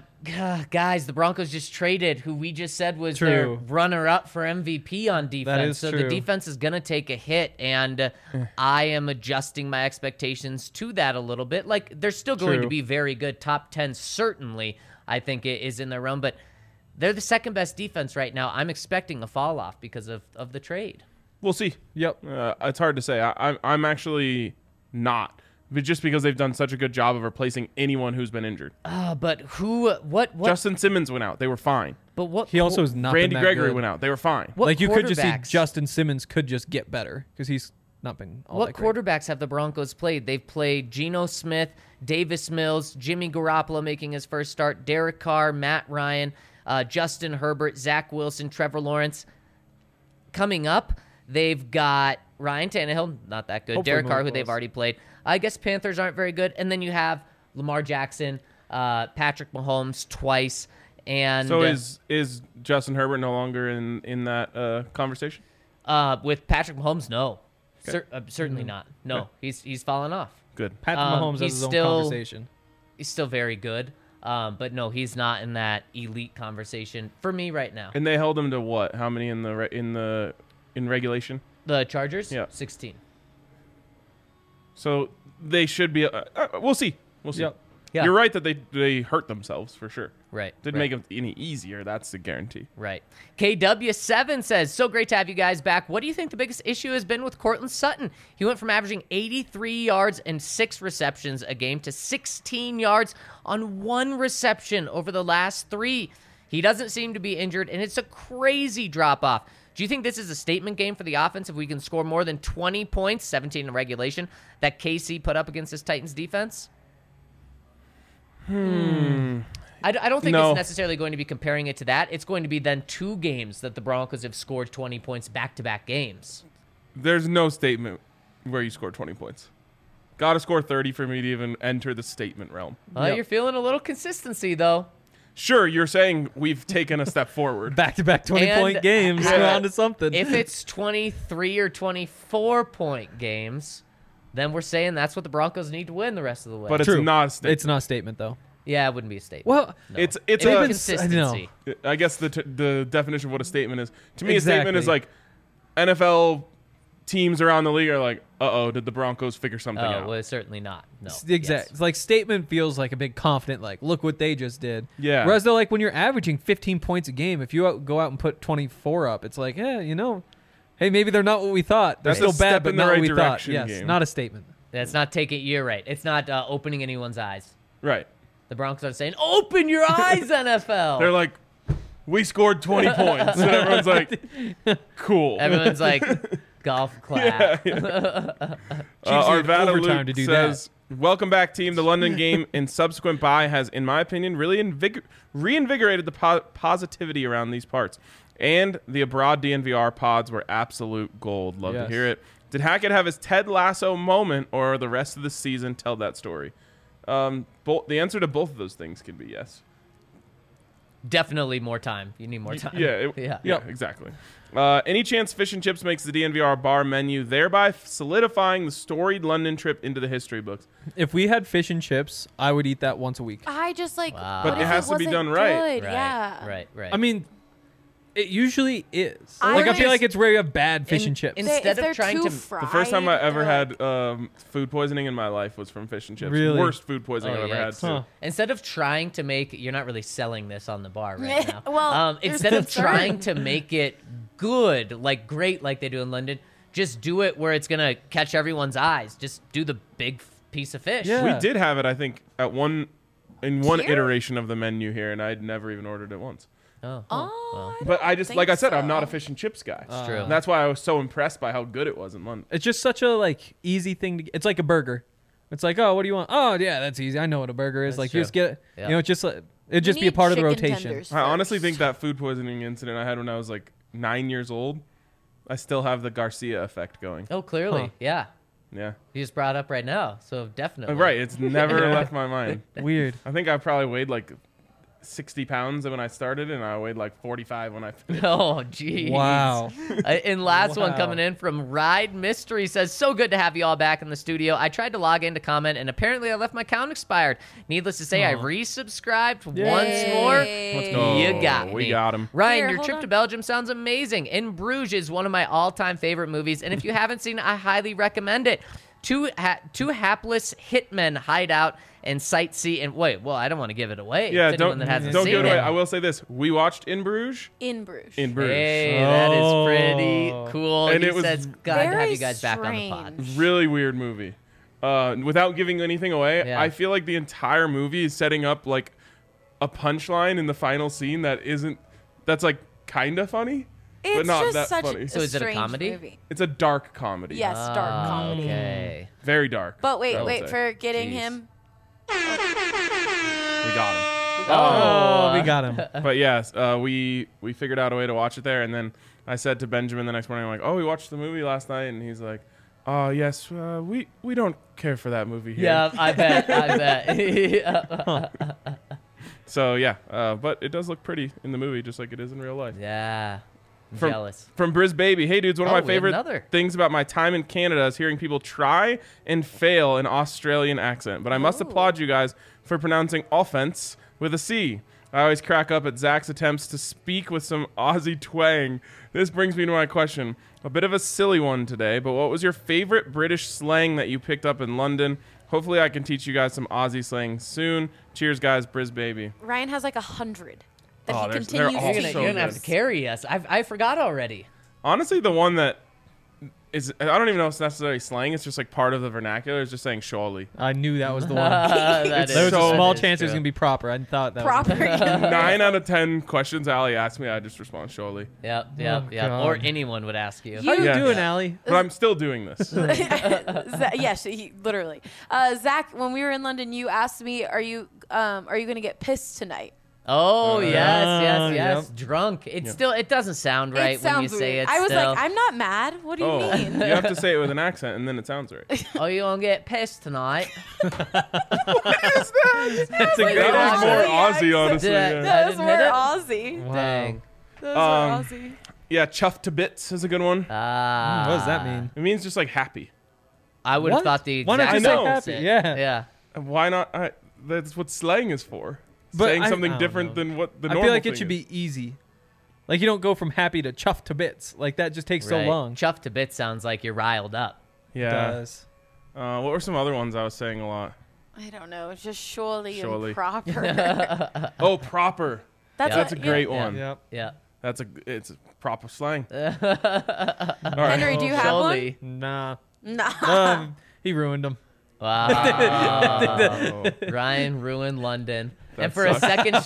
Guys, the Broncos just traded who we just said was their True. runner-up for MVP on defense. is So true. the defense is going to take a hit, and I am adjusting my expectations to that a little bit. Like, they're still going to True. be very good. Top 10 certainly, I think, it is in their realm, but they're the second-best defense right now. I'm expecting a fall-off because of the trade. We'll see. Yep. It's hard to say. I'm actually not, but just because they've done such a good job of replacing anyone who's been injured. But what? Justin Simmons went out. They were fine. But what? He also is not Randy been that Gregory good. went out. They were fine. What Like you could just see quarterbacks- Justin Simmons could just get better because he's not been all What that great. quarterbacks have the Broncos played? They've played Geno Smith, Davis Mills, Jimmy Garoppolo making his first start, Derek Carr, Matt Ryan, Justin Herbert, Zach Wilson, Trevor Lawrence. Coming up, they've got Ryan Tannehill, not that good. Hopefully Derek Carr, more who they've close. already played. I guess Panthers aren't very good. And then you have Lamar Jackson, Patrick Mahomes twice. And So is Justin Herbert no longer in that conversation? with Patrick Mahomes, no. Certainly not. No, he's fallen off. Good. Patrick Mahomes has he's his own still- conversation. He's still very good. But no, he's not in that elite conversation for me right now. And they held him to what? How many in regulation? The Chargers, Yeah. 16. So they should be. We'll see. We'll see. Yep. Yeah. You're right that they hurt themselves for sure. Right. Didn't right. make it any easier. That's the guarantee. Right. KW7 says, so great to have you guys back. What do you think the biggest issue has been with Cortland Sutton? He went from averaging 83 yards and 6 receptions a game to 16 yards on 1 reception over the last 3. He doesn't seem to be injured, and it's a crazy drop-off. Do you think this is a statement game for the offense if we can score more than 20 points, 17 in regulation, that KC put up against this Titans defense? I don't think No. it's necessarily going to be comparing it to that. It's going to be then 2 games that the Broncos have scored 20 points back-to-back games. There's no statement where you score 20 points. Got to score 30 for me to even enter the statement realm. Well, you're feeling a little consistency, though. Sure, you're saying we've taken a step forward. Back-to-back 20-point And- games. Yeah. We're on to something. If it's 23 or 24-point games, then we're saying that's what the Broncos need to win the rest of the way. But it's True. not a statement. It's not a statement, though. yeah, it wouldn't be a statement. Well, No. It's It's a- a It's- consistency. I guess the definition of what a statement is. To me, Exactly. a statement is like NFL teams around the league are like, uh-oh, did the Broncos figure something Oh, out? well, certainly not. No. Exactly. Yes. It's like statement feels like a big confident, like, look what they just did. Yeah. Whereas though, like when you're averaging 15 points a game, if you go out and put 24 up, it's like, yeah, hey, maybe they're not what we thought. They're That's still a step bad, but in the not right what we thought. direction Yes, game. not a statement. That's not taking. You're right. It's not opening anyone's eyes. Right. The Broncos are saying, "Open your eyes, NFL." They're like, we scored 20 points. And everyone's like, cool. Everyone's like, golf clap. Arvada overtime Luke to do says, welcome back, team. The London game and subsequent bye has, in my opinion, really reinvigorated the positivity around these parts. And the abroad DNVR pods were absolute gold. Love Yes. to hear it. Did Hackett have his Ted Lasso moment, or the rest of the season tell that story? The answer to both of those things can be yes. Definitely more time. You need more time. Yeah, exactly. Any chance Fish and Chips makes the DNVR bar menu, thereby solidifying the storied London trip into the history books? If we had fish and chips, I would eat that once a week. I just like, Wow. what But it if has to be wasn't done right. good? Right, Yeah. right. I mean, it usually is. I I feel would- like it's where you have bad fish In- and chips. in- They- Instead if of they're trying too to- fried, The first time I ever they're had food poisoning in my life was from Fish and Chips. Really? Worst food poisoning I've ever had. yikes. Too. Huh. Instead of trying to make, you're not really selling this on the bar right now. Well, there's instead of concern. trying to make it good, like great, like they do in London, just do it where it's gonna catch everyone's eyes. Just do the big piece of fish. Yeah. We did have it, I think, in one Here? iteration of the menu here, and I'd never even ordered it once. Oh. Oh, well. I But I don't just, think like I said, I'm not so. a fish and chips guy. It's true. And that's why I was so impressed by how good it was in London. It's just such a like easy thing to get. It's like a burger. It's like, oh, what do you want? Oh, yeah, that's easy. I know what a burger is. That's like true. you just get it. Yeah. You know, it's just it'd You just be a need part of the chicken rotation. tenders I honestly first. think that food poisoning incident I had when I was like 9 years old, I still have the Garcia effect going. Oh, clearly, Huh. yeah. Yeah. You just brought it up right now, so definitely. Right. It's never left my mind. Weird. I think I probably weighed like 60 pounds when I started, and I weighed like 45 when I finished. Oh, geez. Wow. And last one Wow. coming in from Ride Mystery says, so good to have you all back in the studio. I tried to log in to comment, and apparently I left my account expired. Needless to say, I Aw. resubscribed once Yay. more. Let's go. You got We me. got him. Ryan, Here, your hold trip on. to Belgium sounds amazing. In Bruges is one of my all-time favorite movies, and if you haven't seen it, I highly recommend it. Two hapless hitmen hide out and sightsee. And wait, well, I don't want to give it away. Yeah, to anyone don't that hasn't give seen it away. it. I will say this: we watched In Bruges. In Bruges. In Bruges, Hey, that is pretty Oh. cool. And he it was says, glad to have very you guys back on the pod. strange. really weird movie. Without giving anything away, Yeah. I feel like the entire movie is setting up like a punchline in the final scene that's like kind of funny, but It's not just that such funny. So is it a strange comedy? Movie. It's a dark comedy. Yes, dark comedy. Okay. Very dark. But I would wait, say. for getting Jeez. him. We got him. Oh, we got him. But yes, we figured out a way to watch it there, and then I said to Benjamin the next morning, I'm like, "Oh, we watched the movie last night," and he's like, "Oh, yes, we don't care for that movie here." Yeah, I bet. So yeah, but it does look pretty in the movie, just like it is in real life. Yeah. I'm From- jealous. From Briz Baby, hey dudes, one of Oh, my we have favorite another. things about my time in Canada is hearing people try and fail an Australian accent. But I must applaud you guys for pronouncing offense with a C. I always crack up at Zach's attempts to speak with some Aussie twang. This brings me to my question. A bit of a silly one today, but what was your favorite British slang that you picked up in London? Hopefully I can teach you guys some Aussie slang soon. Cheers, guys. Briz Baby. Ryan has like 100 that Oh, he they're continues all to You're use. gonna, so you're gonna have good. to carry us. I forgot already. Honestly, the one that is, I don't even know if it's necessarily slang. It's just like part of the vernacular. It's just saying surely. I knew that was the one. That There was so- a small that is chance it was true. gonna be proper. I thought that Proper. was 9 out of 10 questions Allie asked me, I just respond surely. Yep. Oh, Or God. anyone would ask you. How you Yeah. doing, Allie? But I'm still doing this. Yes, literally. Zach, when we were in London, you asked me, "Are you going to get pissed tonight?" Oh yes. yep. Drunk. It still it doesn't sound right it when you sounds say weird. it. I was still. like, "I'm not mad. What do you Oh, mean?" you have to say it with an accent, and then it sounds right. Oh, you gonna get pissed tonight? That's a Wait, great that That was Aussie more accent. Aussie, honestly. Did I- Yeah, That was didn't more hit it? Aussie. Wow. Dang. That was more Um, Aussie. yeah, chuffed to bits is a good one. Ah. What does that mean? It means just like happy. I would have What? thought the Why exact not just say opposite. happy? Yeah. Yeah. And why not? That's what slang is for. But Saying I something don't different know. than what the I normal feel like it thing should is. be easy. Like you don't go from happy to chuffed to bits. Like that just takes so Right. long. Chuffed to bits sounds like you're riled up. Yeah. Does. What were some other ones I was saying a lot? I don't know. It's just surely, Surely. and proper. Oh, proper. That's a great one. Yep. Yeah. It's a proper slang. Henry, do you have one? Surely. Nah. Nah. He ruined them. Wow. Oh. Ryan ruined London. That And for a sucks.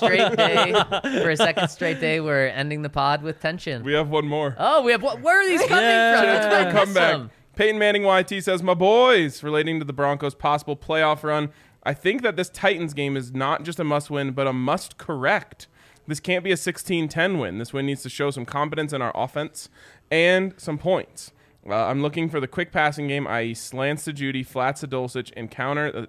second straight day, we're ending the pod with tension. We have one more. Oh, we have what? Where are these coming Yeah. from? That's That's a my Come back. Peyton Manning YT says, my boys, relating to the Broncos' possible playoff run, I think that this Titans game is not just a must-win, but a must-correct. This can't be a 16-10 win. This win needs to show some confidence in our offense and some points. I'm looking for the quick passing game, i.e. slants to Judy, flats to Dulcich, and counter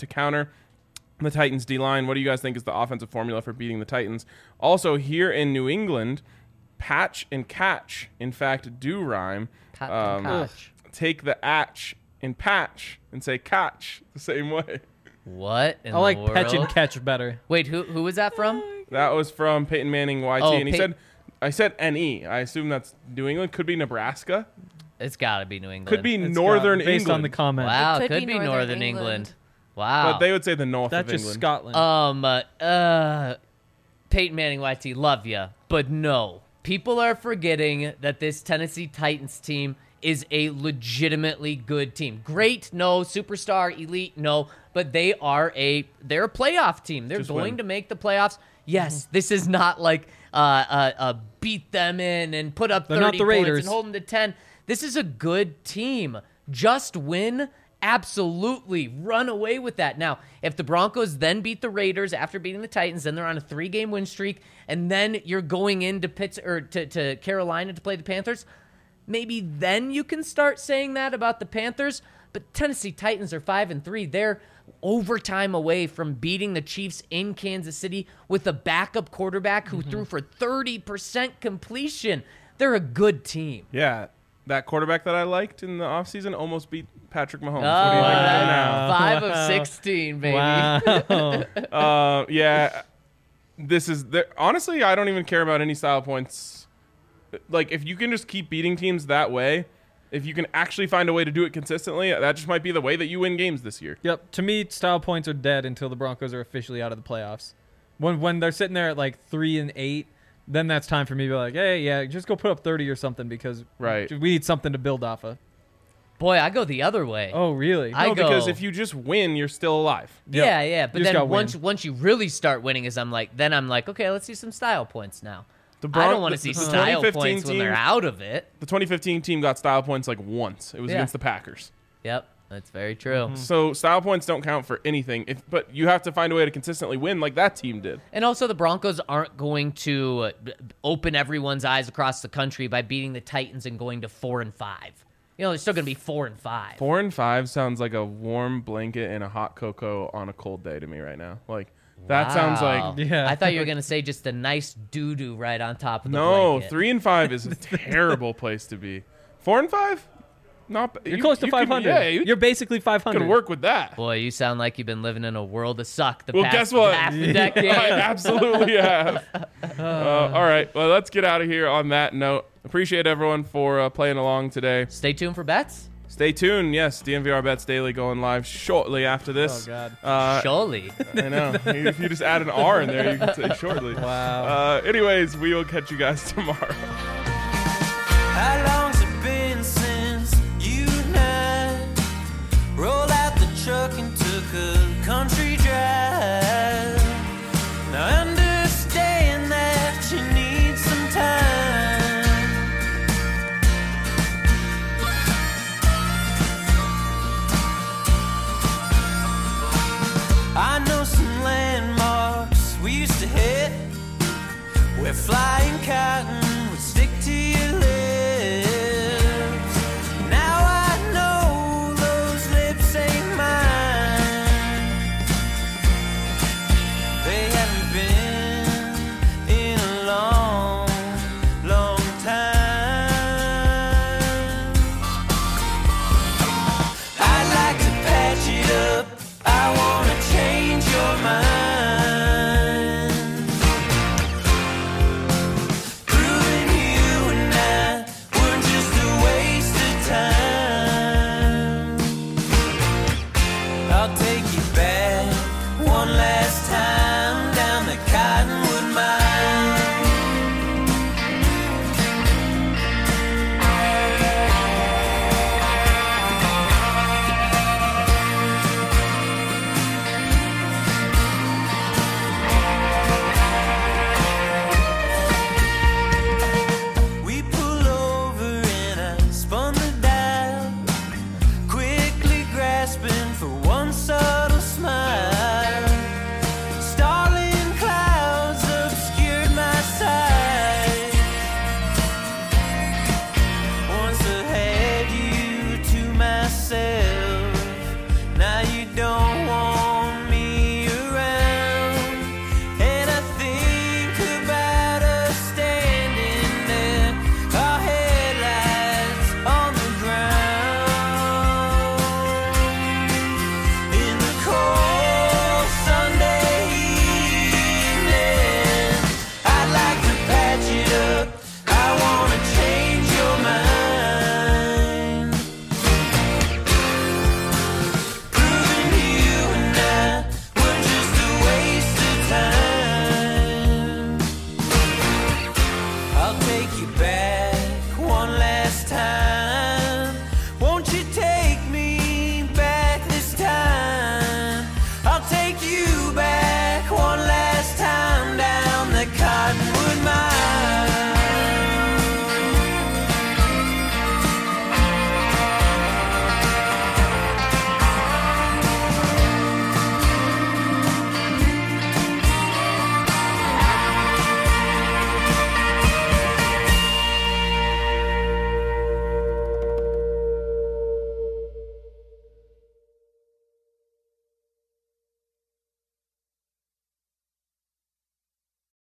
the Titans D-line. What do you guys think is the offensive formula for beating the Titans? Also, here in New England, patch and catch, in fact, do rhyme. Pat and catch. Take the atch and patch and say catch the same way. What in I like the world? patch and catch better. Wait, who was that from? That was from Peyton Manning YT, Oh, and he said, I said NE. I assume that's New England. Could be Nebraska. It's got to be New England. Could be It's Northern got- based England. on the comment. Wow, It could be Northern England. Wow. But they would say the north That's of just England. Scotland. Peyton Manning YT, love ya, but no. People are forgetting that this Tennessee Titans team is a legitimately good team. Great, no. Superstar, elite, no. But they're a playoff team. They're Just going win. to make the playoffs. Yes, this is not like beat them in and put up They're 30 not the points Raiders. and hold them to 10. This is a good team. Just win. Absolutely run away with that. Now, if the Broncos then beat the Raiders after beating the Titans, then they're on a 3-game win streak, and then you're going into to Carolina to play the Panthers, maybe then you can start saying that about the Panthers. But Tennessee Titans are 5-3. They're overtime away from beating the Chiefs in Kansas City with a backup quarterback who threw for 30% completion. They're a good team. Yeah, that quarterback that I liked in the offseason almost beat Patrick Mahomes. What do you think of that now? 5 of 16, baby. Wow. Yeah, this is honestly, I don't even care about any style points. Like, if you can just keep beating teams that way, if you can actually find a way to do it consistently, that just might be the way that you win games this year. Yep. To me, style points are dead until the Broncos are officially out of the playoffs. When they're sitting there at like 3-8, then that's time for me to be like, hey, yeah, just go put up 30 or something because Right. we need something to build off of. Boy, I go the other way. Oh, really? I No, go- because if you just win, you're still alive. Yeah, yeah. But You just then gotta once you really start winning, I'm like, okay, let's see some style points now. The I don't want to see the style 2015 points when team- they're out of it. The 2015 team got style points like once. It was Yeah. against the Packers. Yep, that's very true. So style points don't count for anything. But you have to find a way to consistently win like that team did. And also, the Broncos aren't going to open everyone's eyes across the country by beating the Titans and going to 4-5. You know, they're still going to be 4-5. 4-5 sounds like a warm blanket and a hot cocoa on a cold day to me right now. Like, that sounds Wow. like... Yeah. I thought you were going to say just a nice doo-doo right on top of the No, blanket. 3-5 is a terrible place to be. 4-5? Not You're close to 500. Yeah, you You're basically 500. can work with that. Boy, you sound like you've been living in a world of suck the Well, past guess what? half a decade. I absolutely have. All right, well, let's get out of here on that note. Appreciate everyone for playing along today. Stay tuned for bets. Stay tuned. Yes, DNVR Bets Daily going live shortly after this. Oh, God. Surely. I know. If you just add an R in there, you can say shortly. Wow. Anyways, we will catch you guys tomorrow. How long's it been since you and I rolled out the truck and took a country drive? Now I understand that you need some time. I know some landmarks we used to hit. We're flying